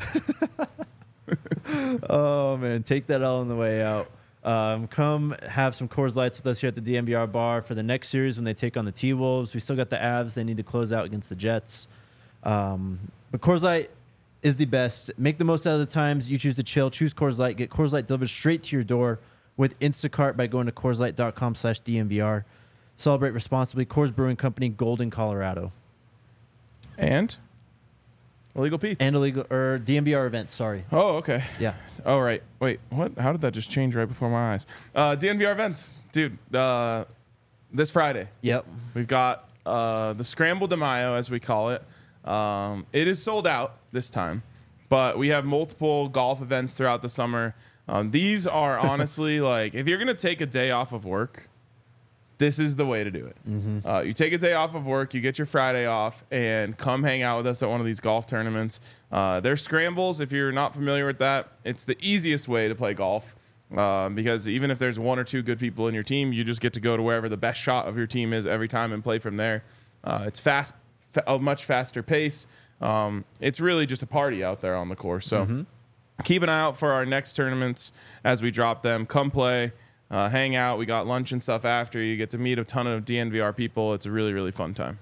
Speaker 1: Oh, man. Take that all on the way out. Um, come have some Coors Lights with us here at the D M V R bar for the next series when they take on the T-Wolves. We still got the Avs. They need to close out against the Jets. Um, but Coors Light is the best. Make the most out of the times. You choose to chill. Choose Coors Light. Get Coors Light delivered straight to your door with Instacart by going to CoorsLight.com slash DMVR. Celebrate responsibly. Coors Brewing Company, Golden, Colorado.
Speaker 2: And Illegal Pete's.
Speaker 1: And illegal or D M V R events. Sorry.
Speaker 2: Oh, okay.
Speaker 1: Yeah.
Speaker 2: Oh, right. Wait, what? How did that just change right before my eyes? Uh, D N V R events. Dude, uh, this Friday,
Speaker 1: Yep.
Speaker 2: we've got uh, the Scramble de Mayo, as we call it. Um, it is sold out this time, but we have multiple golf events throughout the summer. Um, these are honestly, like, if you're going to take a day off of work, this is the way to do it.
Speaker 1: Mm-hmm.
Speaker 2: Uh, you take a day off of work, you get your Friday off, and come hang out with us at one of these golf tournaments. Uh, they're scrambles. If you're not familiar with that, it's the easiest way to play golf uh, because even if there's one or two good people in your team, you just get to go to wherever the best shot of your team is every time and play from there. Uh, it's fast, fa- a much faster pace. Um, it's really just a party out there on the course. So
Speaker 1: Mm-hmm.
Speaker 2: keep an eye out for our next tournaments as we drop them. Come play. Uh, hang out. We got lunch and stuff after. You get to meet a ton of D N V R people. It's a really, really fun time.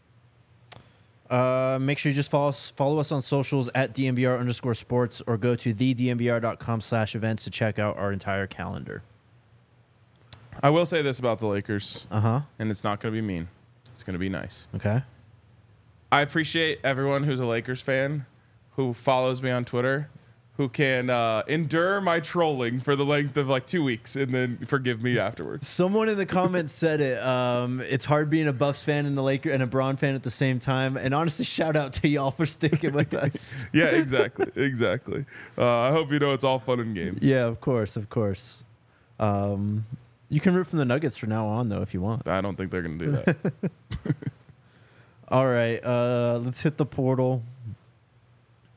Speaker 1: Uh, make sure you just follow us, follow us on socials at DMVR underscore sports or go to the DMVR.com slash events to check out our entire calendar.
Speaker 2: I will say this about the Lakers,
Speaker 1: Uh-huh.
Speaker 2: and it's not going to be mean. It's going to be nice.
Speaker 1: Okay.
Speaker 2: I appreciate everyone who's a Lakers fan who follows me on Twitter, who can uh, endure my trolling for the length of like two weeks and then forgive me afterwards.
Speaker 1: Someone in the comments said it. Um, it's hard being a Buffs fan and the Laker and a Braun fan at the same time. And honestly, shout out to y'all for sticking with us.
Speaker 2: Yeah, exactly. exactly. Uh, I hope you know it's all fun and games.
Speaker 1: Yeah, of course, of course. Um, you can root from the Nuggets from now on, though, if you want.
Speaker 2: I don't think they're going to do that.
Speaker 1: All right, uh, let's hit the portal.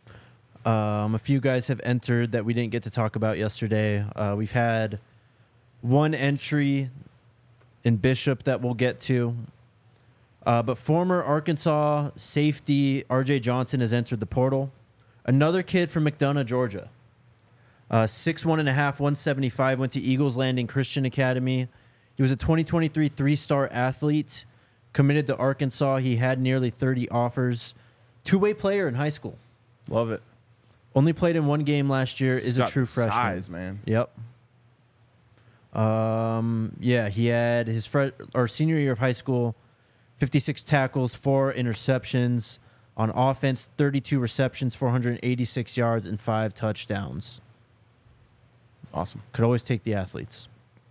Speaker 1: Um, a few guys have entered that we didn't get to talk about yesterday. Uh, we've had one entry in Bishop that we'll get to. Uh, but former Arkansas safety R J Johnson has entered the portal. Another kid from McDonough, Georgia. Uh, six one and a half, one seventy-five, went to Eagles Landing Christian Academy. He was a twenty twenty-three three-star athlete, committed to Arkansas. He had nearly thirty offers. Two-way player in high school.
Speaker 2: Love it.
Speaker 1: Only played in one game last year.
Speaker 2: He's
Speaker 1: Is a
Speaker 2: got
Speaker 1: true
Speaker 2: the
Speaker 1: freshman.
Speaker 2: size, man.
Speaker 1: Yep. Um. Yeah, he had his fre- or senior year of high school, fifty-six tackles, four interceptions. On offense, thirty-two receptions, four hundred eighty-six yards, and five touchdowns.
Speaker 2: Awesome.
Speaker 1: Could always take the athletes.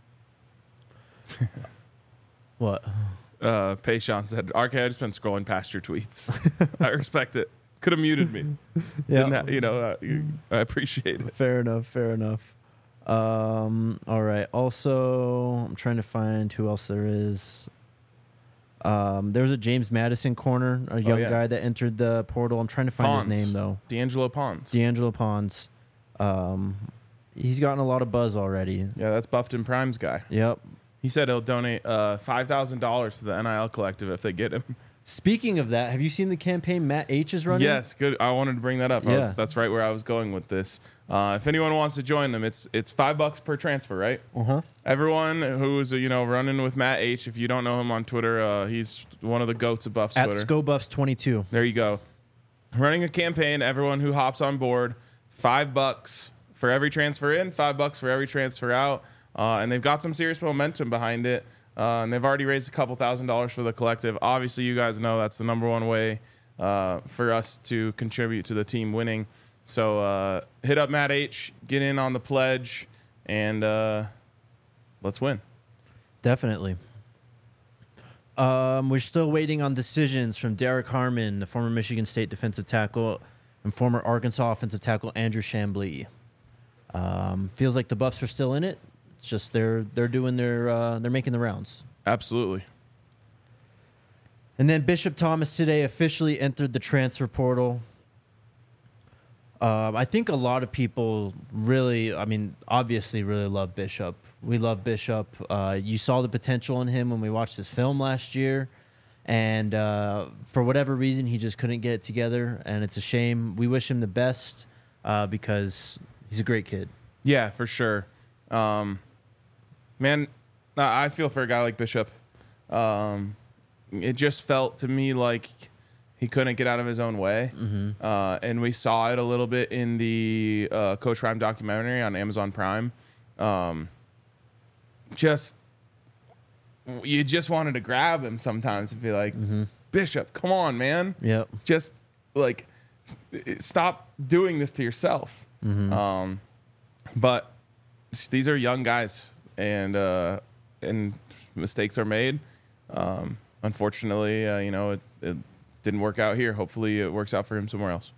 Speaker 1: What?
Speaker 2: Uh, Payshawn said, R K, I just been scrolling past your tweets. I respect it. Could have muted me. Didn't ha- you know, uh, you, I appreciate it.
Speaker 1: Fair enough. Fair enough. Um. All right. Also, I'm trying to find who else there is. Um. There was a James Madison corner, a young
Speaker 2: yeah.
Speaker 1: guy that entered the portal. I'm trying to find
Speaker 2: Pons.
Speaker 1: his name though.
Speaker 2: D'Angelo Pons.
Speaker 1: D'Angelo Pons. Um. He's gotten a lot of buzz already.
Speaker 2: Yeah, that's Buffton Prime's guy.
Speaker 1: Yep.
Speaker 2: He said he'll donate uh, five thousand dollars to the N I L collective if they get him.
Speaker 1: Speaking of that, have you seen the campaign Matt H is running?
Speaker 2: Yes, good. I wanted to bring that up. I
Speaker 1: Yeah.
Speaker 2: was, that's right where I was going with this. Uh, if anyone wants to join them, it's it's five bucks per transfer, right?
Speaker 1: Uh huh.
Speaker 2: Everyone who's you know running with Matt H. If you don't know him on Twitter, uh, he's one of the goats of Buffs
Speaker 1: At
Speaker 2: Twitter.
Speaker 1: Scobuffs twenty-two.
Speaker 2: There you go. Running a campaign. Everyone who hops on board, five bucks for every transfer in, five bucks for every transfer out, uh, and they've got some serious momentum behind it. Uh, and they've already raised a couple thousand dollars for the collective. Obviously, you guys know that's the number one way uh, for us to contribute to the team winning. So uh, hit up Matt H, get in on the pledge, and uh, let's win.
Speaker 1: Definitely. Um, we're still waiting on decisions from Derek Harmon, the former Michigan State defensive tackle, and former Arkansas offensive tackle Andrew Chambly. Um, feels like the Buffs are still in it. It's just they're they're doing their uh, they're making the rounds.
Speaker 2: Absolutely.
Speaker 1: And then Bishop Thomas today officially entered the transfer portal. Um, I think a lot of people really, I mean, obviously really love Bishop. We love Bishop. Uh, you saw the potential in him when we watched his film last year. And uh, for whatever reason, he just couldn't get it together. And it's a shame. We wish him the best uh, because he's a great kid.
Speaker 2: Yeah, for sure. Um, man, I feel for a guy like Bishop. Um, it just felt to me like he couldn't get out of his own way.
Speaker 1: Mm-hmm.
Speaker 2: Uh, and we saw it a little bit in the uh, Coach Prime documentary on Amazon Prime. Um, just, you just wanted to grab him sometimes and be like,
Speaker 1: Mm-hmm.
Speaker 2: Bishop, come on, man.
Speaker 1: Yep.
Speaker 2: Just like, st- stop doing this to yourself.
Speaker 1: Mm-hmm.
Speaker 2: Um, but these are young guys, and uh, and mistakes are made. Um, unfortunately, uh, you know, it, it didn't work out here. Hopefully, it works out for him somewhere else.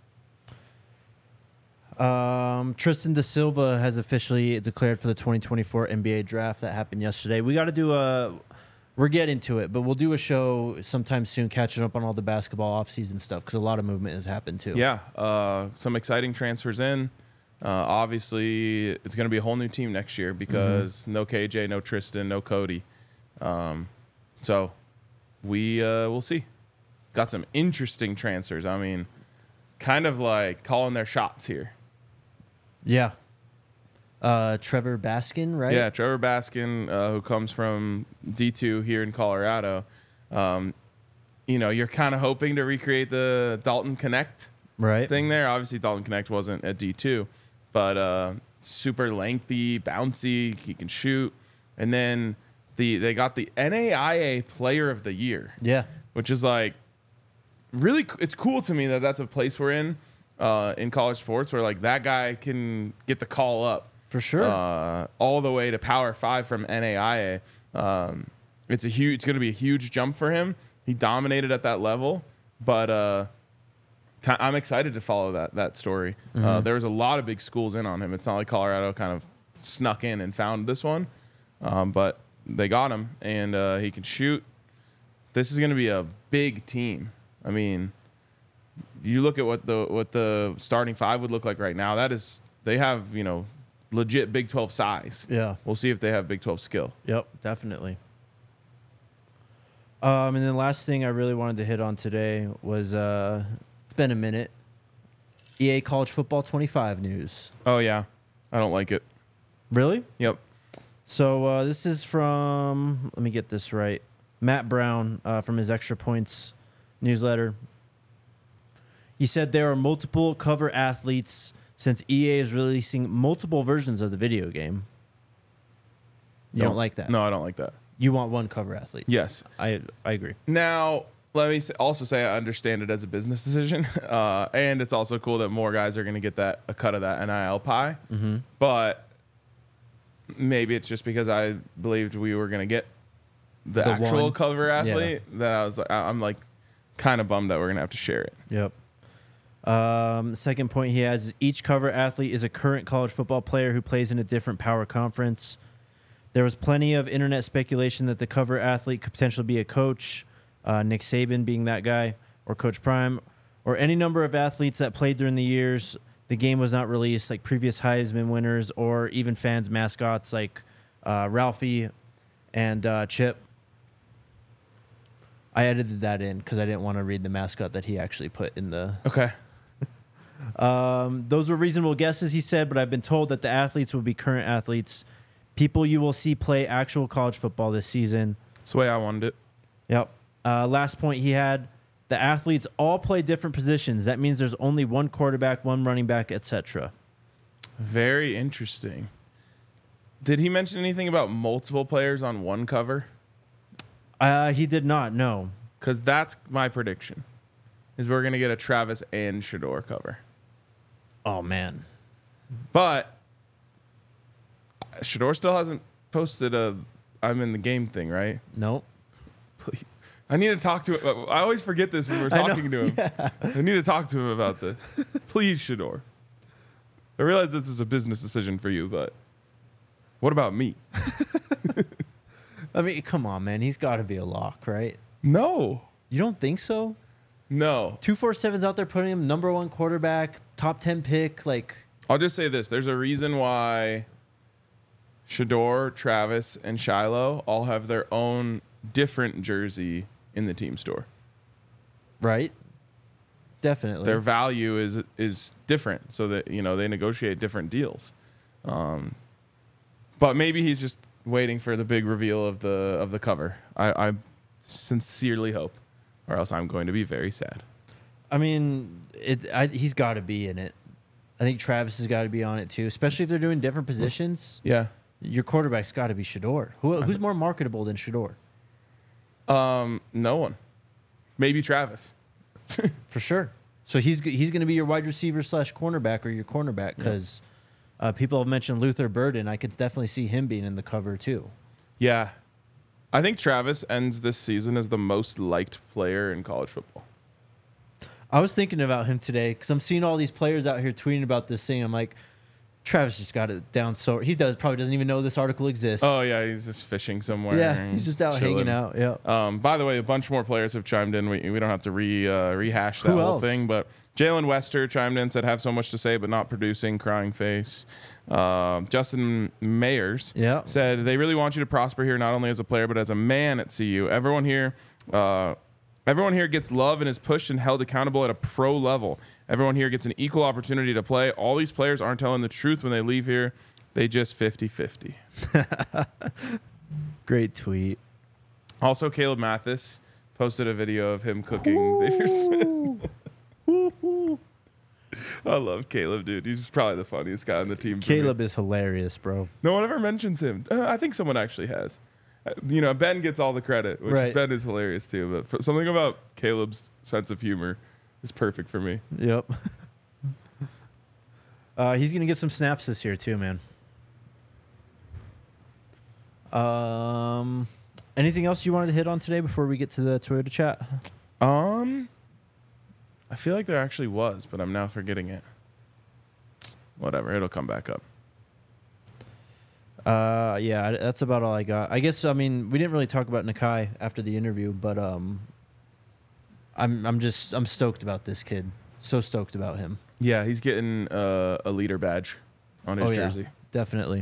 Speaker 1: Um, Tristan Da Silva has officially declared for the twenty twenty-four N B A draft that happened yesterday. We got to do a, we're getting to it, but we'll do a show sometime soon, catching up on all the basketball offseason stuff because a lot of movement has happened too.
Speaker 2: Yeah, uh, some exciting transfers in. Uh, obviously, it's going to be a whole new team next year because mm-hmm. no K J, no Tristan, no Cody. Um, so we uh, we'll see. Got some interesting transfers. I mean, kind of like calling their shots here.
Speaker 1: Yeah. Uh, Trevor Baskin, right?
Speaker 2: Yeah, Trevor Baskin, uh, who comes from D two here in Colorado. Um, you know, you're kind of hoping to recreate the Dalton Connect
Speaker 1: right
Speaker 2: thing there. Obviously, Dalton Connect wasn't at D two, but uh, super lengthy, bouncy. He can shoot. And then the they got the N A I A Player of the Year.
Speaker 1: Yeah.
Speaker 2: Which is like really, it's cool to me that that's a place we're in uh, in college sports where like that guy can get the call up.
Speaker 1: For sure.
Speaker 2: Uh, all the way to Power Five from N A I A. Um, it's a huge. It's going to be a huge jump for him. He dominated at that level, but uh, I'm excited to follow that that story. Mm-hmm. Uh, there was a lot of big schools in on him. It's not like Colorado kind of snuck in and found this one, um, but they got him, and uh, he can shoot. This is going to be a big team. I mean, you look at what the what the starting five would look like right now. That is, they have, you know, legit Big twelve size.
Speaker 1: Yeah.
Speaker 2: We'll see if they have Big twelve skill.
Speaker 1: Yep, definitely. Um, and then the last thing I really wanted to hit on today was uh, it's been a minute. E A College Football twenty-five news.
Speaker 2: Oh yeah, I don't like it.
Speaker 1: Really?
Speaker 2: Yep.
Speaker 1: So uh, this is from, let me get this right, Matt Brown uh, from his Extra Points newsletter. He said there are multiple cover athletes since E A is releasing multiple versions of the video game. You don't, don't like that?
Speaker 2: No, I don't like that.
Speaker 1: You want one cover athlete?
Speaker 2: Yes.
Speaker 1: I I agree.
Speaker 2: Now, let me also say I understand it as a business decision, uh, and it's also cool that more guys are going to get that a cut of that N I L pie.
Speaker 1: Mm-hmm.
Speaker 2: But maybe it's just because I believed we were going to get the,
Speaker 1: The
Speaker 2: actual
Speaker 1: one.
Speaker 2: cover athlete that I was like, I'm like kind of bummed that we're going to have to share it.
Speaker 1: Yep. Um, second point he has is each cover athlete is a current college football player who plays in a different power conference. There was plenty of internet speculation that the cover athlete could potentially be a coach, uh, Nick Saban being that guy, or Coach Prime, or any number of athletes that played during the years the game was not released, like previous Heisman winners, or even fans' mascots like uh, Ralphie and uh, Chip. I edited that in because I didn't want to read the mascot that he actually put in the...
Speaker 2: Okay.
Speaker 1: Um, those were reasonable guesses, he said, but I've been told that the athletes will be current athletes, people you will see play actual college football this season.
Speaker 2: That's the way I wanted it.
Speaker 1: Yep. Uh, last point he had, the athletes all play different positions. That means there's only one quarterback, one running back, et cetera.
Speaker 2: Very interesting. Did he mention anything about multiple players on one cover?
Speaker 1: Uh, he did not, no.
Speaker 2: Because that's my prediction, is we're going to get a Travis and Shador cover.
Speaker 1: Oh, man.
Speaker 2: But Shador still hasn't posted a I'm in the game thing, right?
Speaker 1: Nope.
Speaker 2: Please. I need to talk to him. I always forget this when we're talking to him. Yeah. I need to talk to him about this. Please, Shador. I realize this is a business decision for you, but what about me?
Speaker 1: I mean, come on, man. He's got to be a lock, right?
Speaker 2: No.
Speaker 1: You don't think so?
Speaker 2: No.
Speaker 1: two forty-seven's out there putting him number one quarterback, top ten pick. Like,
Speaker 2: I'll just say this. There's a reason why Shador, Travis, and Shiloh all have their own different jersey in the team store.
Speaker 1: Right? Definitely.
Speaker 2: Their value is is different, so that, you know, they negotiate different deals. Um, but maybe he's just waiting for the big reveal of the of the cover. I, I sincerely hope, or else I'm going to be very sad.
Speaker 1: I mean, it. I, he's got to be in it. I think Travis has got to be on it too, especially if they're doing different positions.
Speaker 2: Yeah.
Speaker 1: Your quarterback's got to be Shador. Who, who's more marketable than Shador?
Speaker 2: Um, no one. Maybe Travis.
Speaker 1: For sure. So he's he's going to be your wide receiver slash cornerback or your cornerback because yeah. uh, people have mentioned Luther Burden. I could definitely see him being in the cover too.
Speaker 2: Yeah. I think Travis ends this season as the most liked player in college football.
Speaker 1: I was thinking about him today because I'm seeing all these players out here tweeting about this thing. I'm like, Travis just got it down so he does probably doesn't even know this article exists.
Speaker 2: Oh yeah, he's just fishing somewhere.
Speaker 1: Yeah, he's just out
Speaker 2: chilling.
Speaker 1: hanging out. Yeah.
Speaker 2: Um, by the way, a bunch more players have chimed in. We we don't have to re uh, rehash that
Speaker 1: Who
Speaker 2: whole
Speaker 1: else?
Speaker 2: thing, but Jalen Wester chimed in, said have so much to say but not producing, crying face. Uh, Justin Mayers
Speaker 1: Yeah.
Speaker 2: said they really want you to prosper here, not only as a player but as a man at C U. Everyone here. Uh, Everyone here gets love and is pushed and held accountable at a pro level. Everyone here gets an equal opportunity to play. All these players aren't telling the truth when they leave here. They just fifty-fifty.
Speaker 1: Great tweet.
Speaker 2: Also, Caleb Mathis posted a video of him cooking Xavier Smith. I love Caleb, dude. He's probably the funniest guy on the team.
Speaker 1: Caleb is hilarious, bro.
Speaker 2: No one ever mentions him. Uh, I think someone actually has. You know, Ben gets all the credit, which
Speaker 1: Right.
Speaker 2: Ben is hilarious too. But for, something about Caleb's sense of humor is perfect for me.
Speaker 1: Yep. uh, he's gonna get some snaps this year too, man. Um, anything else you wanted to hit on today before we get to the Toyota chat?
Speaker 2: Um, I feel like there actually was, but I'm now forgetting it. Whatever, it'll come back up.
Speaker 1: Uh, yeah, that's about all I got. I guess I mean we didn't really talk about Nakai after the interview, but um, I'm I'm just I'm stoked about this kid. So stoked about him.
Speaker 2: Yeah, he's getting uh, a leader badge on his
Speaker 1: Oh, yeah,
Speaker 2: jersey.
Speaker 1: definitely.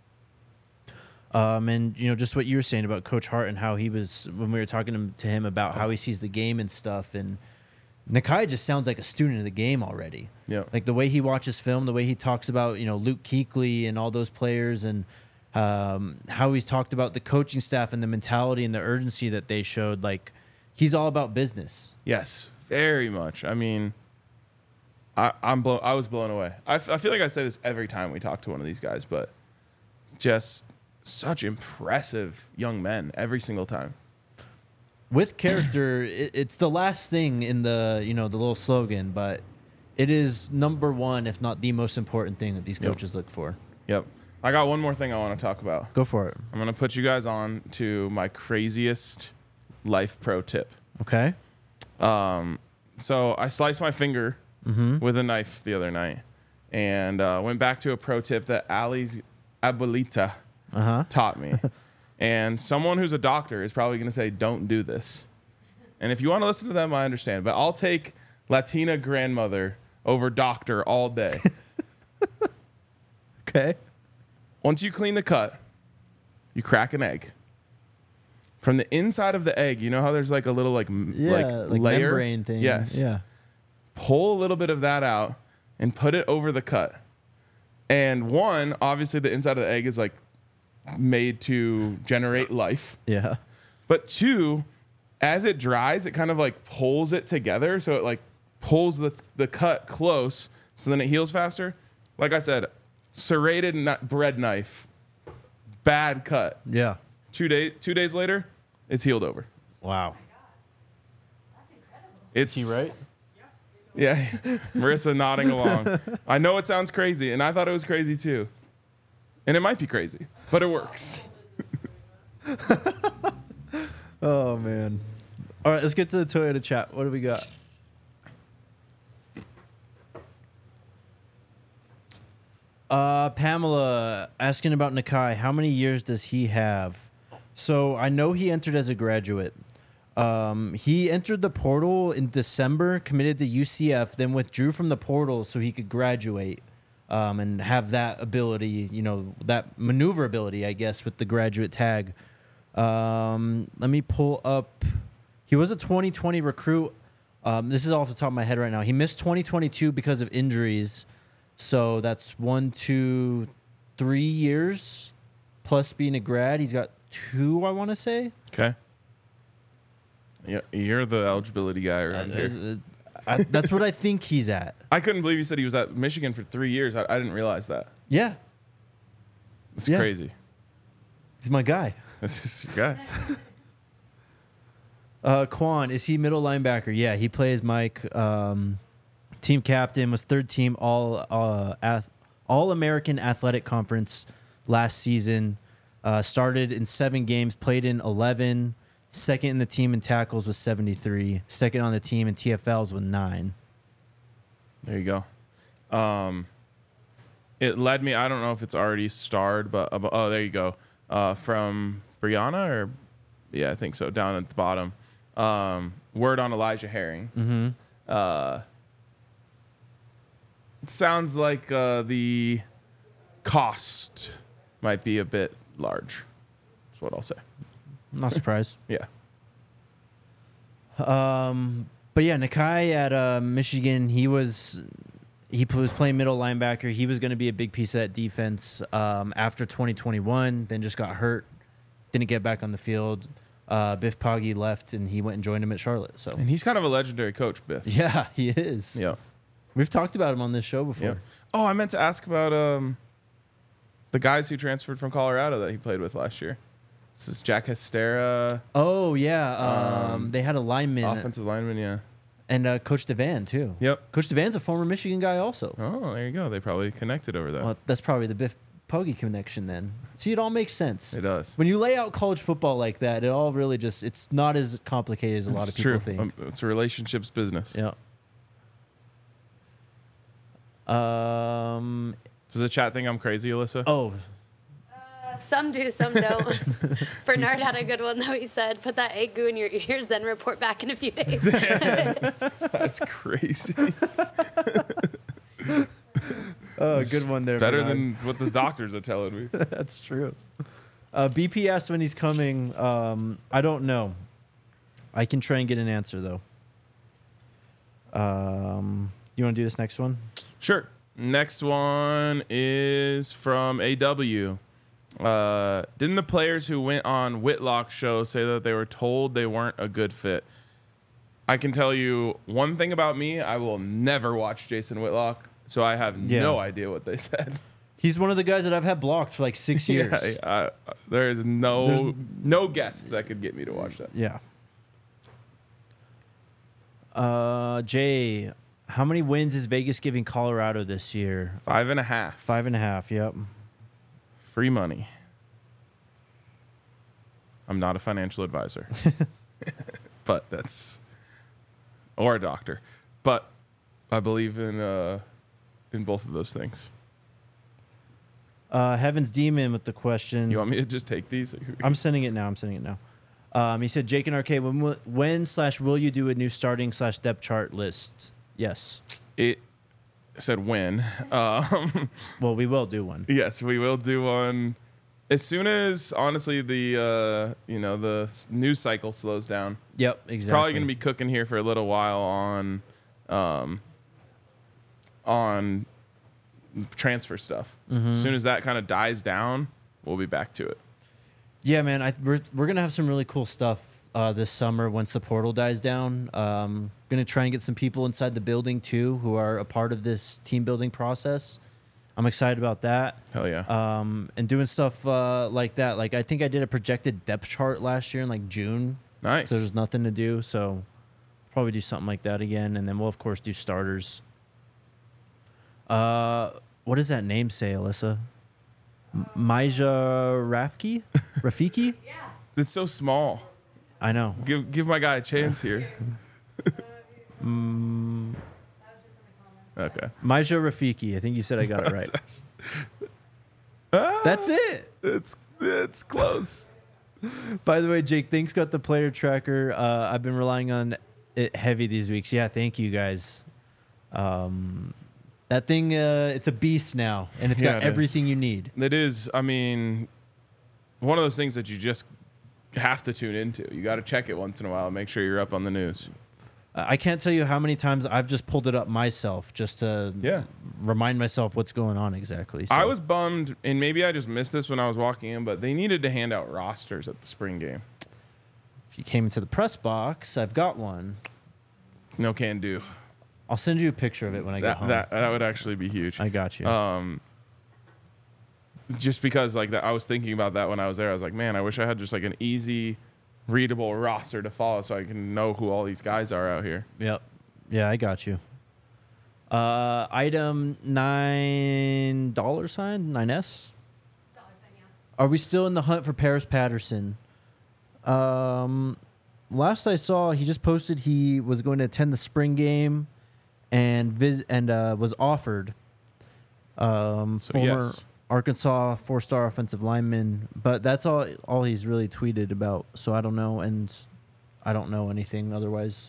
Speaker 1: Um, and you know, just what you were saying about Coach Hart and how he was when we were talking to him about how he sees the game and stuff. And Nakai just sounds like a student of the game already.
Speaker 2: Yeah.
Speaker 1: Like the way he watches film, the way he talks about, you know, Luke Kuechly and all those players, and um, how he's talked about the coaching staff and the mentality and the urgency that they showed. Like, he's all about business.
Speaker 2: Yes, very much. I mean, I, I'm blow, I was blown away. I, f- I feel like I say this every time we talk to one of these guys, but just such impressive young men every single time.
Speaker 1: With character, it, it's the last thing in the, you know, the little slogan, but it is number one, if not the most important thing that these coaches
Speaker 2: Yep.
Speaker 1: look for.
Speaker 2: Yep. I got one more thing I want to talk about.
Speaker 1: Go for it.
Speaker 2: I'm going to put you guys on to my craziest life pro tip.
Speaker 1: Okay.
Speaker 2: Um, so I sliced my finger
Speaker 1: Mm-hmm.
Speaker 2: with a knife the other night, and uh, went back to a pro tip that Ali's abuelita
Speaker 1: Uh-huh.
Speaker 2: taught me. And someone who's a doctor is probably going to say, don't do this. And if you want to listen to them, I understand. But I'll take Latina grandmother over doctor all day.
Speaker 1: Okay.
Speaker 2: Once you clean the cut, you crack an egg. From the inside of the egg, you know how there's like a little like m-
Speaker 1: Yeah,
Speaker 2: like,
Speaker 1: like,
Speaker 2: layer?
Speaker 1: membrane thing.
Speaker 2: Yes.
Speaker 1: Yeah.
Speaker 2: Pull a little bit of that out and put it over the cut. And one, obviously the inside of the egg is like made to generate life.
Speaker 1: Yeah.
Speaker 2: But two, as it dries, it kind of like pulls it together. So it like pulls the, the cut close so then it heals faster. Like I said, serrated nut bread knife, bad cut.
Speaker 1: Yeah.
Speaker 2: Two, day, two days later, it's healed over.
Speaker 1: Wow.
Speaker 2: It's
Speaker 1: Is he right?
Speaker 2: Yeah, Marissa nodding along. I know it sounds crazy, and I thought it was crazy too. And it might be crazy, but it works.
Speaker 1: Oh, man. All right, let's get to the Toyota chat. What do we got? Uh, Pamela asking about Nakai. How many years does he have? So I know he entered as a graduate. Um, he entered the portal in December, committed to U C F, then withdrew from the portal so he could graduate um, and have that ability, you know, that maneuverability, I guess, with the graduate tag. Um, let me pull up. He was a twenty twenty recruit. Um, this is off the top of my head right now. He missed twenty twenty-two because of injuries. So that's one, two, three years plus being a grad. He's got two, I want to say.
Speaker 2: Okay. Yeah, you're the eligibility guy around here.
Speaker 1: Uh, I, that's what I think he's at.
Speaker 2: I couldn't believe you said he was at Michigan for three years. I, I didn't realize that.
Speaker 1: Yeah,
Speaker 2: It's
Speaker 1: Yeah.
Speaker 2: crazy.
Speaker 1: he's my guy.
Speaker 2: This is your guy.
Speaker 1: Uh, Quan, is he middle linebacker? Yeah, he plays Mike. Um, team captain, was third team all uh, ath- all American Athletic Conference last season. Uh, started in seven games, played in eleven. Second in the team in tackles with seventy-three. Second on the team in T F Ls with nine.
Speaker 2: There you go. Um, it led me. I don't know if it's already starred, but uh, oh, there you go. Uh, from Brianna, or yeah, I think so. Down at the bottom. Um, word on Elijah Herring.
Speaker 1: Mm-hmm.
Speaker 2: Uh, it sounds like uh, the cost might be a bit large. That's what I'll say.
Speaker 1: Not surprised.
Speaker 2: Yeah.
Speaker 1: Um, but yeah, Nakai at uh, Michigan, he was he p- was playing middle linebacker. He was going to be a big piece of that defense um, after twenty twenty-one. Then just got hurt, didn't get back on the field. Uh, Biff Poggi left, and he went and joined him at Charlotte. So
Speaker 2: And he's kind of a legendary coach, Biff.
Speaker 1: yeah, he is.
Speaker 2: Yeah.
Speaker 1: We've talked about him on this show before.
Speaker 2: Yeah. Oh, I meant to ask about um, the guys who transferred from Colorado that he played with last year. This is Jack Hestera,
Speaker 1: Oh yeah, um,
Speaker 2: Um,
Speaker 1: they had a lineman
Speaker 2: offensive lineman. Yeah.
Speaker 1: and uh, Coach Devan too.
Speaker 2: Yep.
Speaker 1: Coach Devan's a former Michigan guy also.
Speaker 2: Oh, there you go. They probably connected over that.
Speaker 1: Well, that's probably the Biff Poggi connection then. See, it all makes sense.
Speaker 2: It does.
Speaker 1: When you lay out college football like that, it all really just, it's not as complicated as a lot
Speaker 2: It's
Speaker 1: of people
Speaker 2: true.
Speaker 1: think.
Speaker 2: Um, it's a relationships business.
Speaker 1: Yeah. Um.
Speaker 2: Does the chat think I'm crazy, Alyssa?
Speaker 1: Oh,
Speaker 4: Some do, some don't. Bernard had a good one, though. He said, put that egg goo in your ears, then report back in a few days.
Speaker 2: That's crazy.
Speaker 1: Oh, good one there.
Speaker 2: Better
Speaker 1: Bernard.
Speaker 2: than what the doctors are telling me.
Speaker 1: That's true. Uh, B P asked when he's coming. Um, I don't know. I can try and get an answer, though. Um, you want to do this next one?
Speaker 2: Sure. Next one is from A W. Uh, didn't the players who went on Whitlock's show say that they were told they weren't a good fit? I can tell you one thing about me. I will never watch Jason Whitlock, so I have
Speaker 1: Yeah.
Speaker 2: no idea what they said.
Speaker 1: He's one of the guys that I've had blocked for like six years.
Speaker 2: Yeah, I, there is no
Speaker 1: There's-
Speaker 2: no guest that could get me to watch that.
Speaker 1: Yeah. Uh, Jay, how many wins is Vegas giving Colorado this year?
Speaker 2: Five and a half.
Speaker 1: Five and a half. Yep.
Speaker 2: Free money. I'm not a financial advisor, but that's or a doctor, but I believe in uh, in both of those things.
Speaker 1: Uh, Heaven's Demon with the question.
Speaker 2: You want me to just take these?
Speaker 1: I'm sending it now. I'm sending it now. Um, he said, Jake and Arcade, when will- when slash will you do a new starting slash depth chart list? Yes.
Speaker 2: It said when. Um,
Speaker 1: Well, we will do one.
Speaker 2: yes, we will do one as soon as honestly the uh, you know the s- news cycle slows down.
Speaker 1: Yep, exactly.
Speaker 2: It's probably going to be cooking here for a little while on um, on transfer stuff. As soon as that kind of dies down, we'll be back to it.
Speaker 1: Yeah, man. I, we're we're gonna have some really cool stuff uh, this summer once the portal dies down. Um, gonna try and get some people inside the building too who are a part of this team building process. I'm excited about that.
Speaker 2: Hell yeah.
Speaker 1: Um, and doing stuff uh, like that. Like I think I did a projected depth chart last year in like June.
Speaker 2: Nice.
Speaker 1: So there's nothing to do. So probably do something like that again, and then we'll of course do starters. Uh, what does that name say, Alyssa? M- Maija Rafiki? Rafiki?
Speaker 2: It's so small.
Speaker 1: I know.
Speaker 2: Give give my guy a chance here.
Speaker 1: Mm,
Speaker 2: Okay.
Speaker 1: Maija Rafiki. I think you said I got it right.
Speaker 2: That's,
Speaker 1: That's it.
Speaker 2: it's it's close.
Speaker 1: By the way, Jake, thanks got the player tracker. Uh, I've been relying on it heavy these weeks. Yeah, thank you guys. Um, that thing, uh, it's a beast now, and it's
Speaker 2: Yeah,
Speaker 1: got
Speaker 2: it is.
Speaker 1: everything you need.
Speaker 2: It is. I mean, one of those things that you just have to tune into. You got to check it once in a while and make sure you're up on the news.
Speaker 1: Uh, I can't tell you how many times I've just pulled it up myself just to
Speaker 2: Yeah.
Speaker 1: remind myself what's going on exactly. So,
Speaker 2: I was bummed, and maybe I just missed this when I was walking in, but they needed to hand out rosters at the spring game.
Speaker 1: if you came into the press box, I've got one.
Speaker 2: No can do.
Speaker 1: I'll send you a picture of it when I get
Speaker 2: That
Speaker 1: home.
Speaker 2: that that would actually be huge.
Speaker 1: I got you.
Speaker 2: Um, just because like that, I was thinking about that when I was there. I was like, man, I wish I had just like an easy, readable roster to follow, so I can know who all these guys are out here.
Speaker 1: Yep. Yeah, I got you. Uh, item nine dollar sign nine S. Are we still in the hunt for Paris Patterson? Um, last I saw, he just posted he was going to attend the spring game, and vis- and uh, was offered. Um,
Speaker 2: So,
Speaker 1: former
Speaker 2: yes.
Speaker 1: Arkansas four-star offensive lineman, but that's all all he's really tweeted about. So I don't know, and I don't know anything otherwise.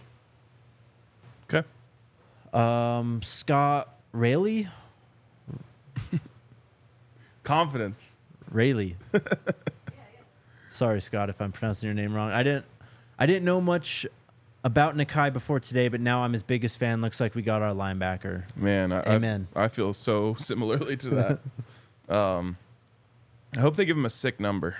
Speaker 2: Okay.
Speaker 1: Um, Scott Rayleigh,
Speaker 2: Confidence.
Speaker 1: Rayleigh. Sorry, Scott, if I'm pronouncing your name wrong. I didn't, I didn't know much about Nakai before today, but now I'm his biggest fan. Looks like we got our linebacker.
Speaker 2: Man, I, I f-
Speaker 1: Amen.
Speaker 2: I feel so similarly to that. um, I hope they give him a sick number.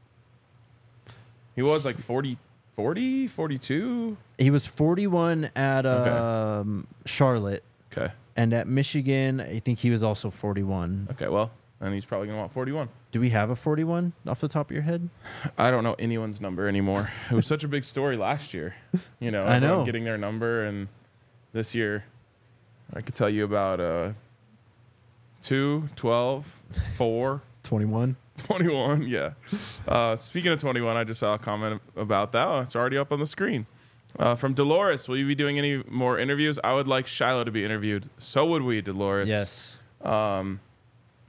Speaker 2: He was like forty, forty, forty-two.
Speaker 1: He was forty-one at
Speaker 2: Okay.
Speaker 1: um, Charlotte,
Speaker 2: Okay.
Speaker 1: and at Michigan, I think he was also forty-one.
Speaker 2: Okay. Well, then he's probably gonna want forty-one.
Speaker 1: Do we have a forty-one off the top of your head?
Speaker 2: I don't know anyone's number anymore. It was such a big story last year. You know,
Speaker 1: I
Speaker 2: everyone
Speaker 1: know.
Speaker 2: getting their number, and this year, I could tell you about uh, two, twelve, four.
Speaker 1: twenty-one.
Speaker 2: twenty-one, yeah. Uh, speaking of twenty-one, I just saw a comment about that. Oh, it's already up on the screen. Uh, from Dolores, will you be doing any more interviews? I would like Shiloh to be interviewed. So would we, Dolores.
Speaker 1: Yes.
Speaker 2: Um,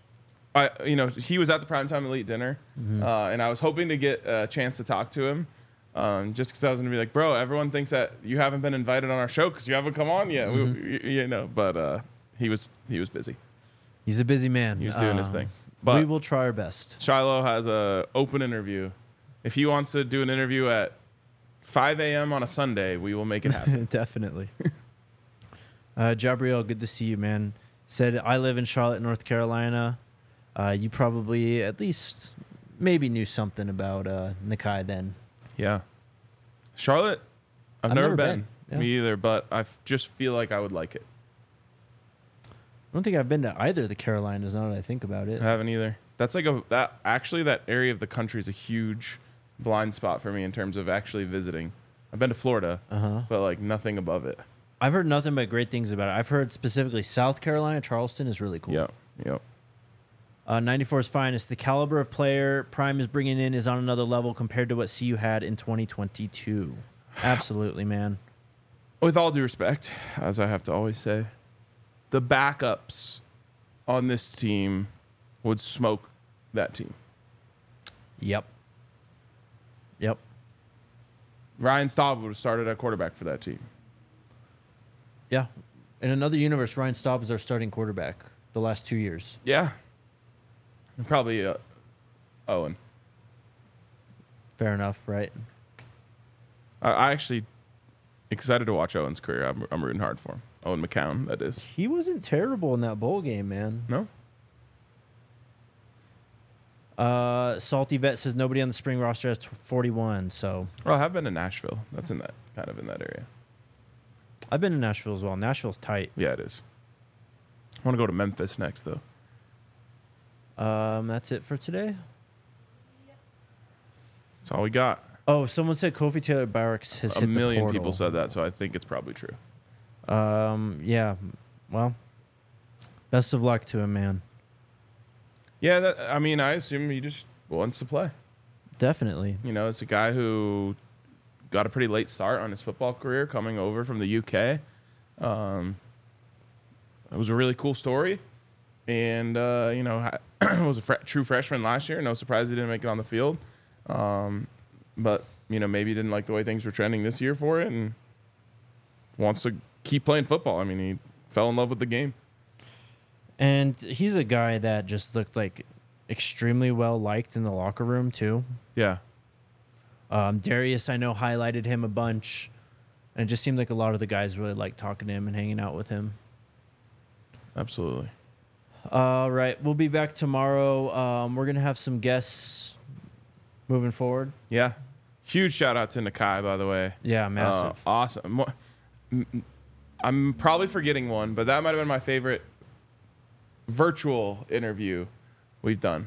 Speaker 2: I, you know, he was at the Primetime Elite dinner, mm-hmm. uh, and I was hoping to get a chance to talk to him, um, just because I was gonna be like, bro, everyone thinks that you haven't been invited on our show because you haven't come on yet. Mm-hmm. We, you, you know, but uh, he was he was busy.
Speaker 1: He's a busy man.
Speaker 2: He was doing
Speaker 1: uh,
Speaker 2: his thing. But
Speaker 1: we will try our best.
Speaker 2: Shiloh has a open interview. If he wants to do an interview at five a.m. on a Sunday, we will make it happen.
Speaker 1: Definitely. uh, Jabriel, good to see you, man. Said, I live in Charlotte, North Carolina. Uh, you probably at least maybe knew something about uh, Nakai then.
Speaker 2: Yeah. Charlotte, I've,
Speaker 1: I've
Speaker 2: never,
Speaker 1: never
Speaker 2: been.
Speaker 1: been. Yeah.
Speaker 2: Me either, but I f- just feel like I would like it.
Speaker 1: I don't think I've been to either of the Carolinas now that I think about it.
Speaker 2: I haven't either. That's like a, that actually, that area of the country is a huge blind spot for me in terms of actually visiting. I've been to Florida,
Speaker 1: uh-huh.
Speaker 2: but like nothing above it.
Speaker 1: I've heard nothing but great things about it. I've heard specifically South Carolina, Charleston is really cool.
Speaker 2: Yep, yep.
Speaker 1: Uh, ninety-four's finest. The caliber of player Prime is bringing in is on another level compared to what C U had in twenty twenty-two. Absolutely, man.
Speaker 2: With all due respect, as I have to always say, the backups on this team would smoke that team.
Speaker 1: Yep. Yep.
Speaker 2: Ryan Staub would have started at quarterback for that team.
Speaker 1: Yeah. In another universe, Ryan Staub is our starting quarterback the last two years.
Speaker 2: Yeah. And probably uh, Owen.
Speaker 1: Fair enough, right?
Speaker 2: I, I actually excited to watch Owen's career. I'm, I'm rooting hard for him. Owen McCown, that is.
Speaker 1: He wasn't terrible in that bowl game, man.
Speaker 2: No?
Speaker 1: Uh, Salty Vet says nobody on the spring roster has forty-one, so.
Speaker 2: Well, I have been to Nashville. That's in that kind of in that area.
Speaker 1: I've been to Nashville as well. Nashville's tight.
Speaker 2: Yeah, it is. I want to go to Memphis next, though.
Speaker 1: Um, that's it for today.
Speaker 2: That's all we got.
Speaker 1: Oh, someone said Kofi Taylor Barracks has
Speaker 2: A
Speaker 1: hit
Speaker 2: million
Speaker 1: the portal.
Speaker 2: people said that, so I think it's probably true.
Speaker 1: Um, yeah. Well, best of luck to him, man.
Speaker 2: Yeah, that, I mean, I assume he just wants to play.
Speaker 1: Definitely.
Speaker 2: You know, it's a guy who got a pretty late start on his football career coming over from the U K. Um, it was a really cool story. And, uh, you know, was a fre- true freshman last year. No surprise he didn't make it on the field. Um, but, you know, maybe he didn't like the way things were trending this year for it and wants to keep playing football. I mean, he fell in love with the game.
Speaker 1: And he's a guy that just looked like extremely well liked in the locker room, too.
Speaker 2: Yeah.
Speaker 1: Um, Darius, I know, highlighted him a bunch. And it just seemed like a lot of the guys really liked talking to him and hanging out with him.
Speaker 2: Absolutely.
Speaker 1: All right. We'll be back tomorrow. Um, we're going to have some guests moving forward.
Speaker 2: Yeah. Huge shout out to Nakai, by the way.
Speaker 1: Yeah, massive.
Speaker 2: Uh, awesome. Mo- I'm probably forgetting one, but that might have been my favorite virtual interview we've done.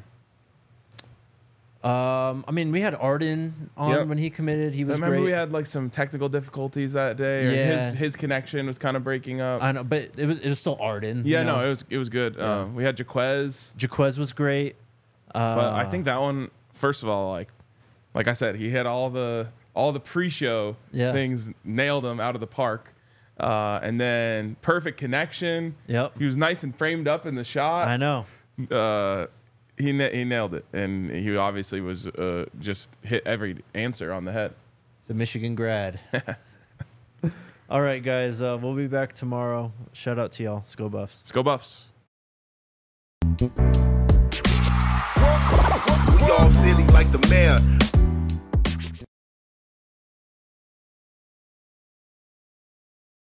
Speaker 1: Um, I mean, we had Arden on
Speaker 2: Yep.
Speaker 1: when he committed. He was
Speaker 2: I remember
Speaker 1: great.
Speaker 2: we had like some technical difficulties that day. Or
Speaker 1: Yeah.
Speaker 2: his his connection was kind of breaking up.
Speaker 1: I know, but it was it was still Arden.
Speaker 2: yeah,
Speaker 1: you know?
Speaker 2: no, it was it was good.
Speaker 1: Yeah.
Speaker 2: Uh, we had Jaquez,
Speaker 1: Jaquez was great. Uh,
Speaker 2: but I think that one, first of all, like like I said, he had all the all the pre-show
Speaker 1: Yeah.
Speaker 2: things, nailed him out of the park. Uh, and then perfect connection.
Speaker 1: Yep.
Speaker 2: He was nice and framed up in the shot.
Speaker 1: I know.
Speaker 2: Uh, he na- he nailed it, and he obviously was uh, just hit every answer on the head.
Speaker 1: It's a Michigan grad. All right, guys. Uh, we'll be back tomorrow. Shout out to y'all. Let's go Buffs.
Speaker 2: Let's go Buffs.
Speaker 5: Y'all silly like the mayor.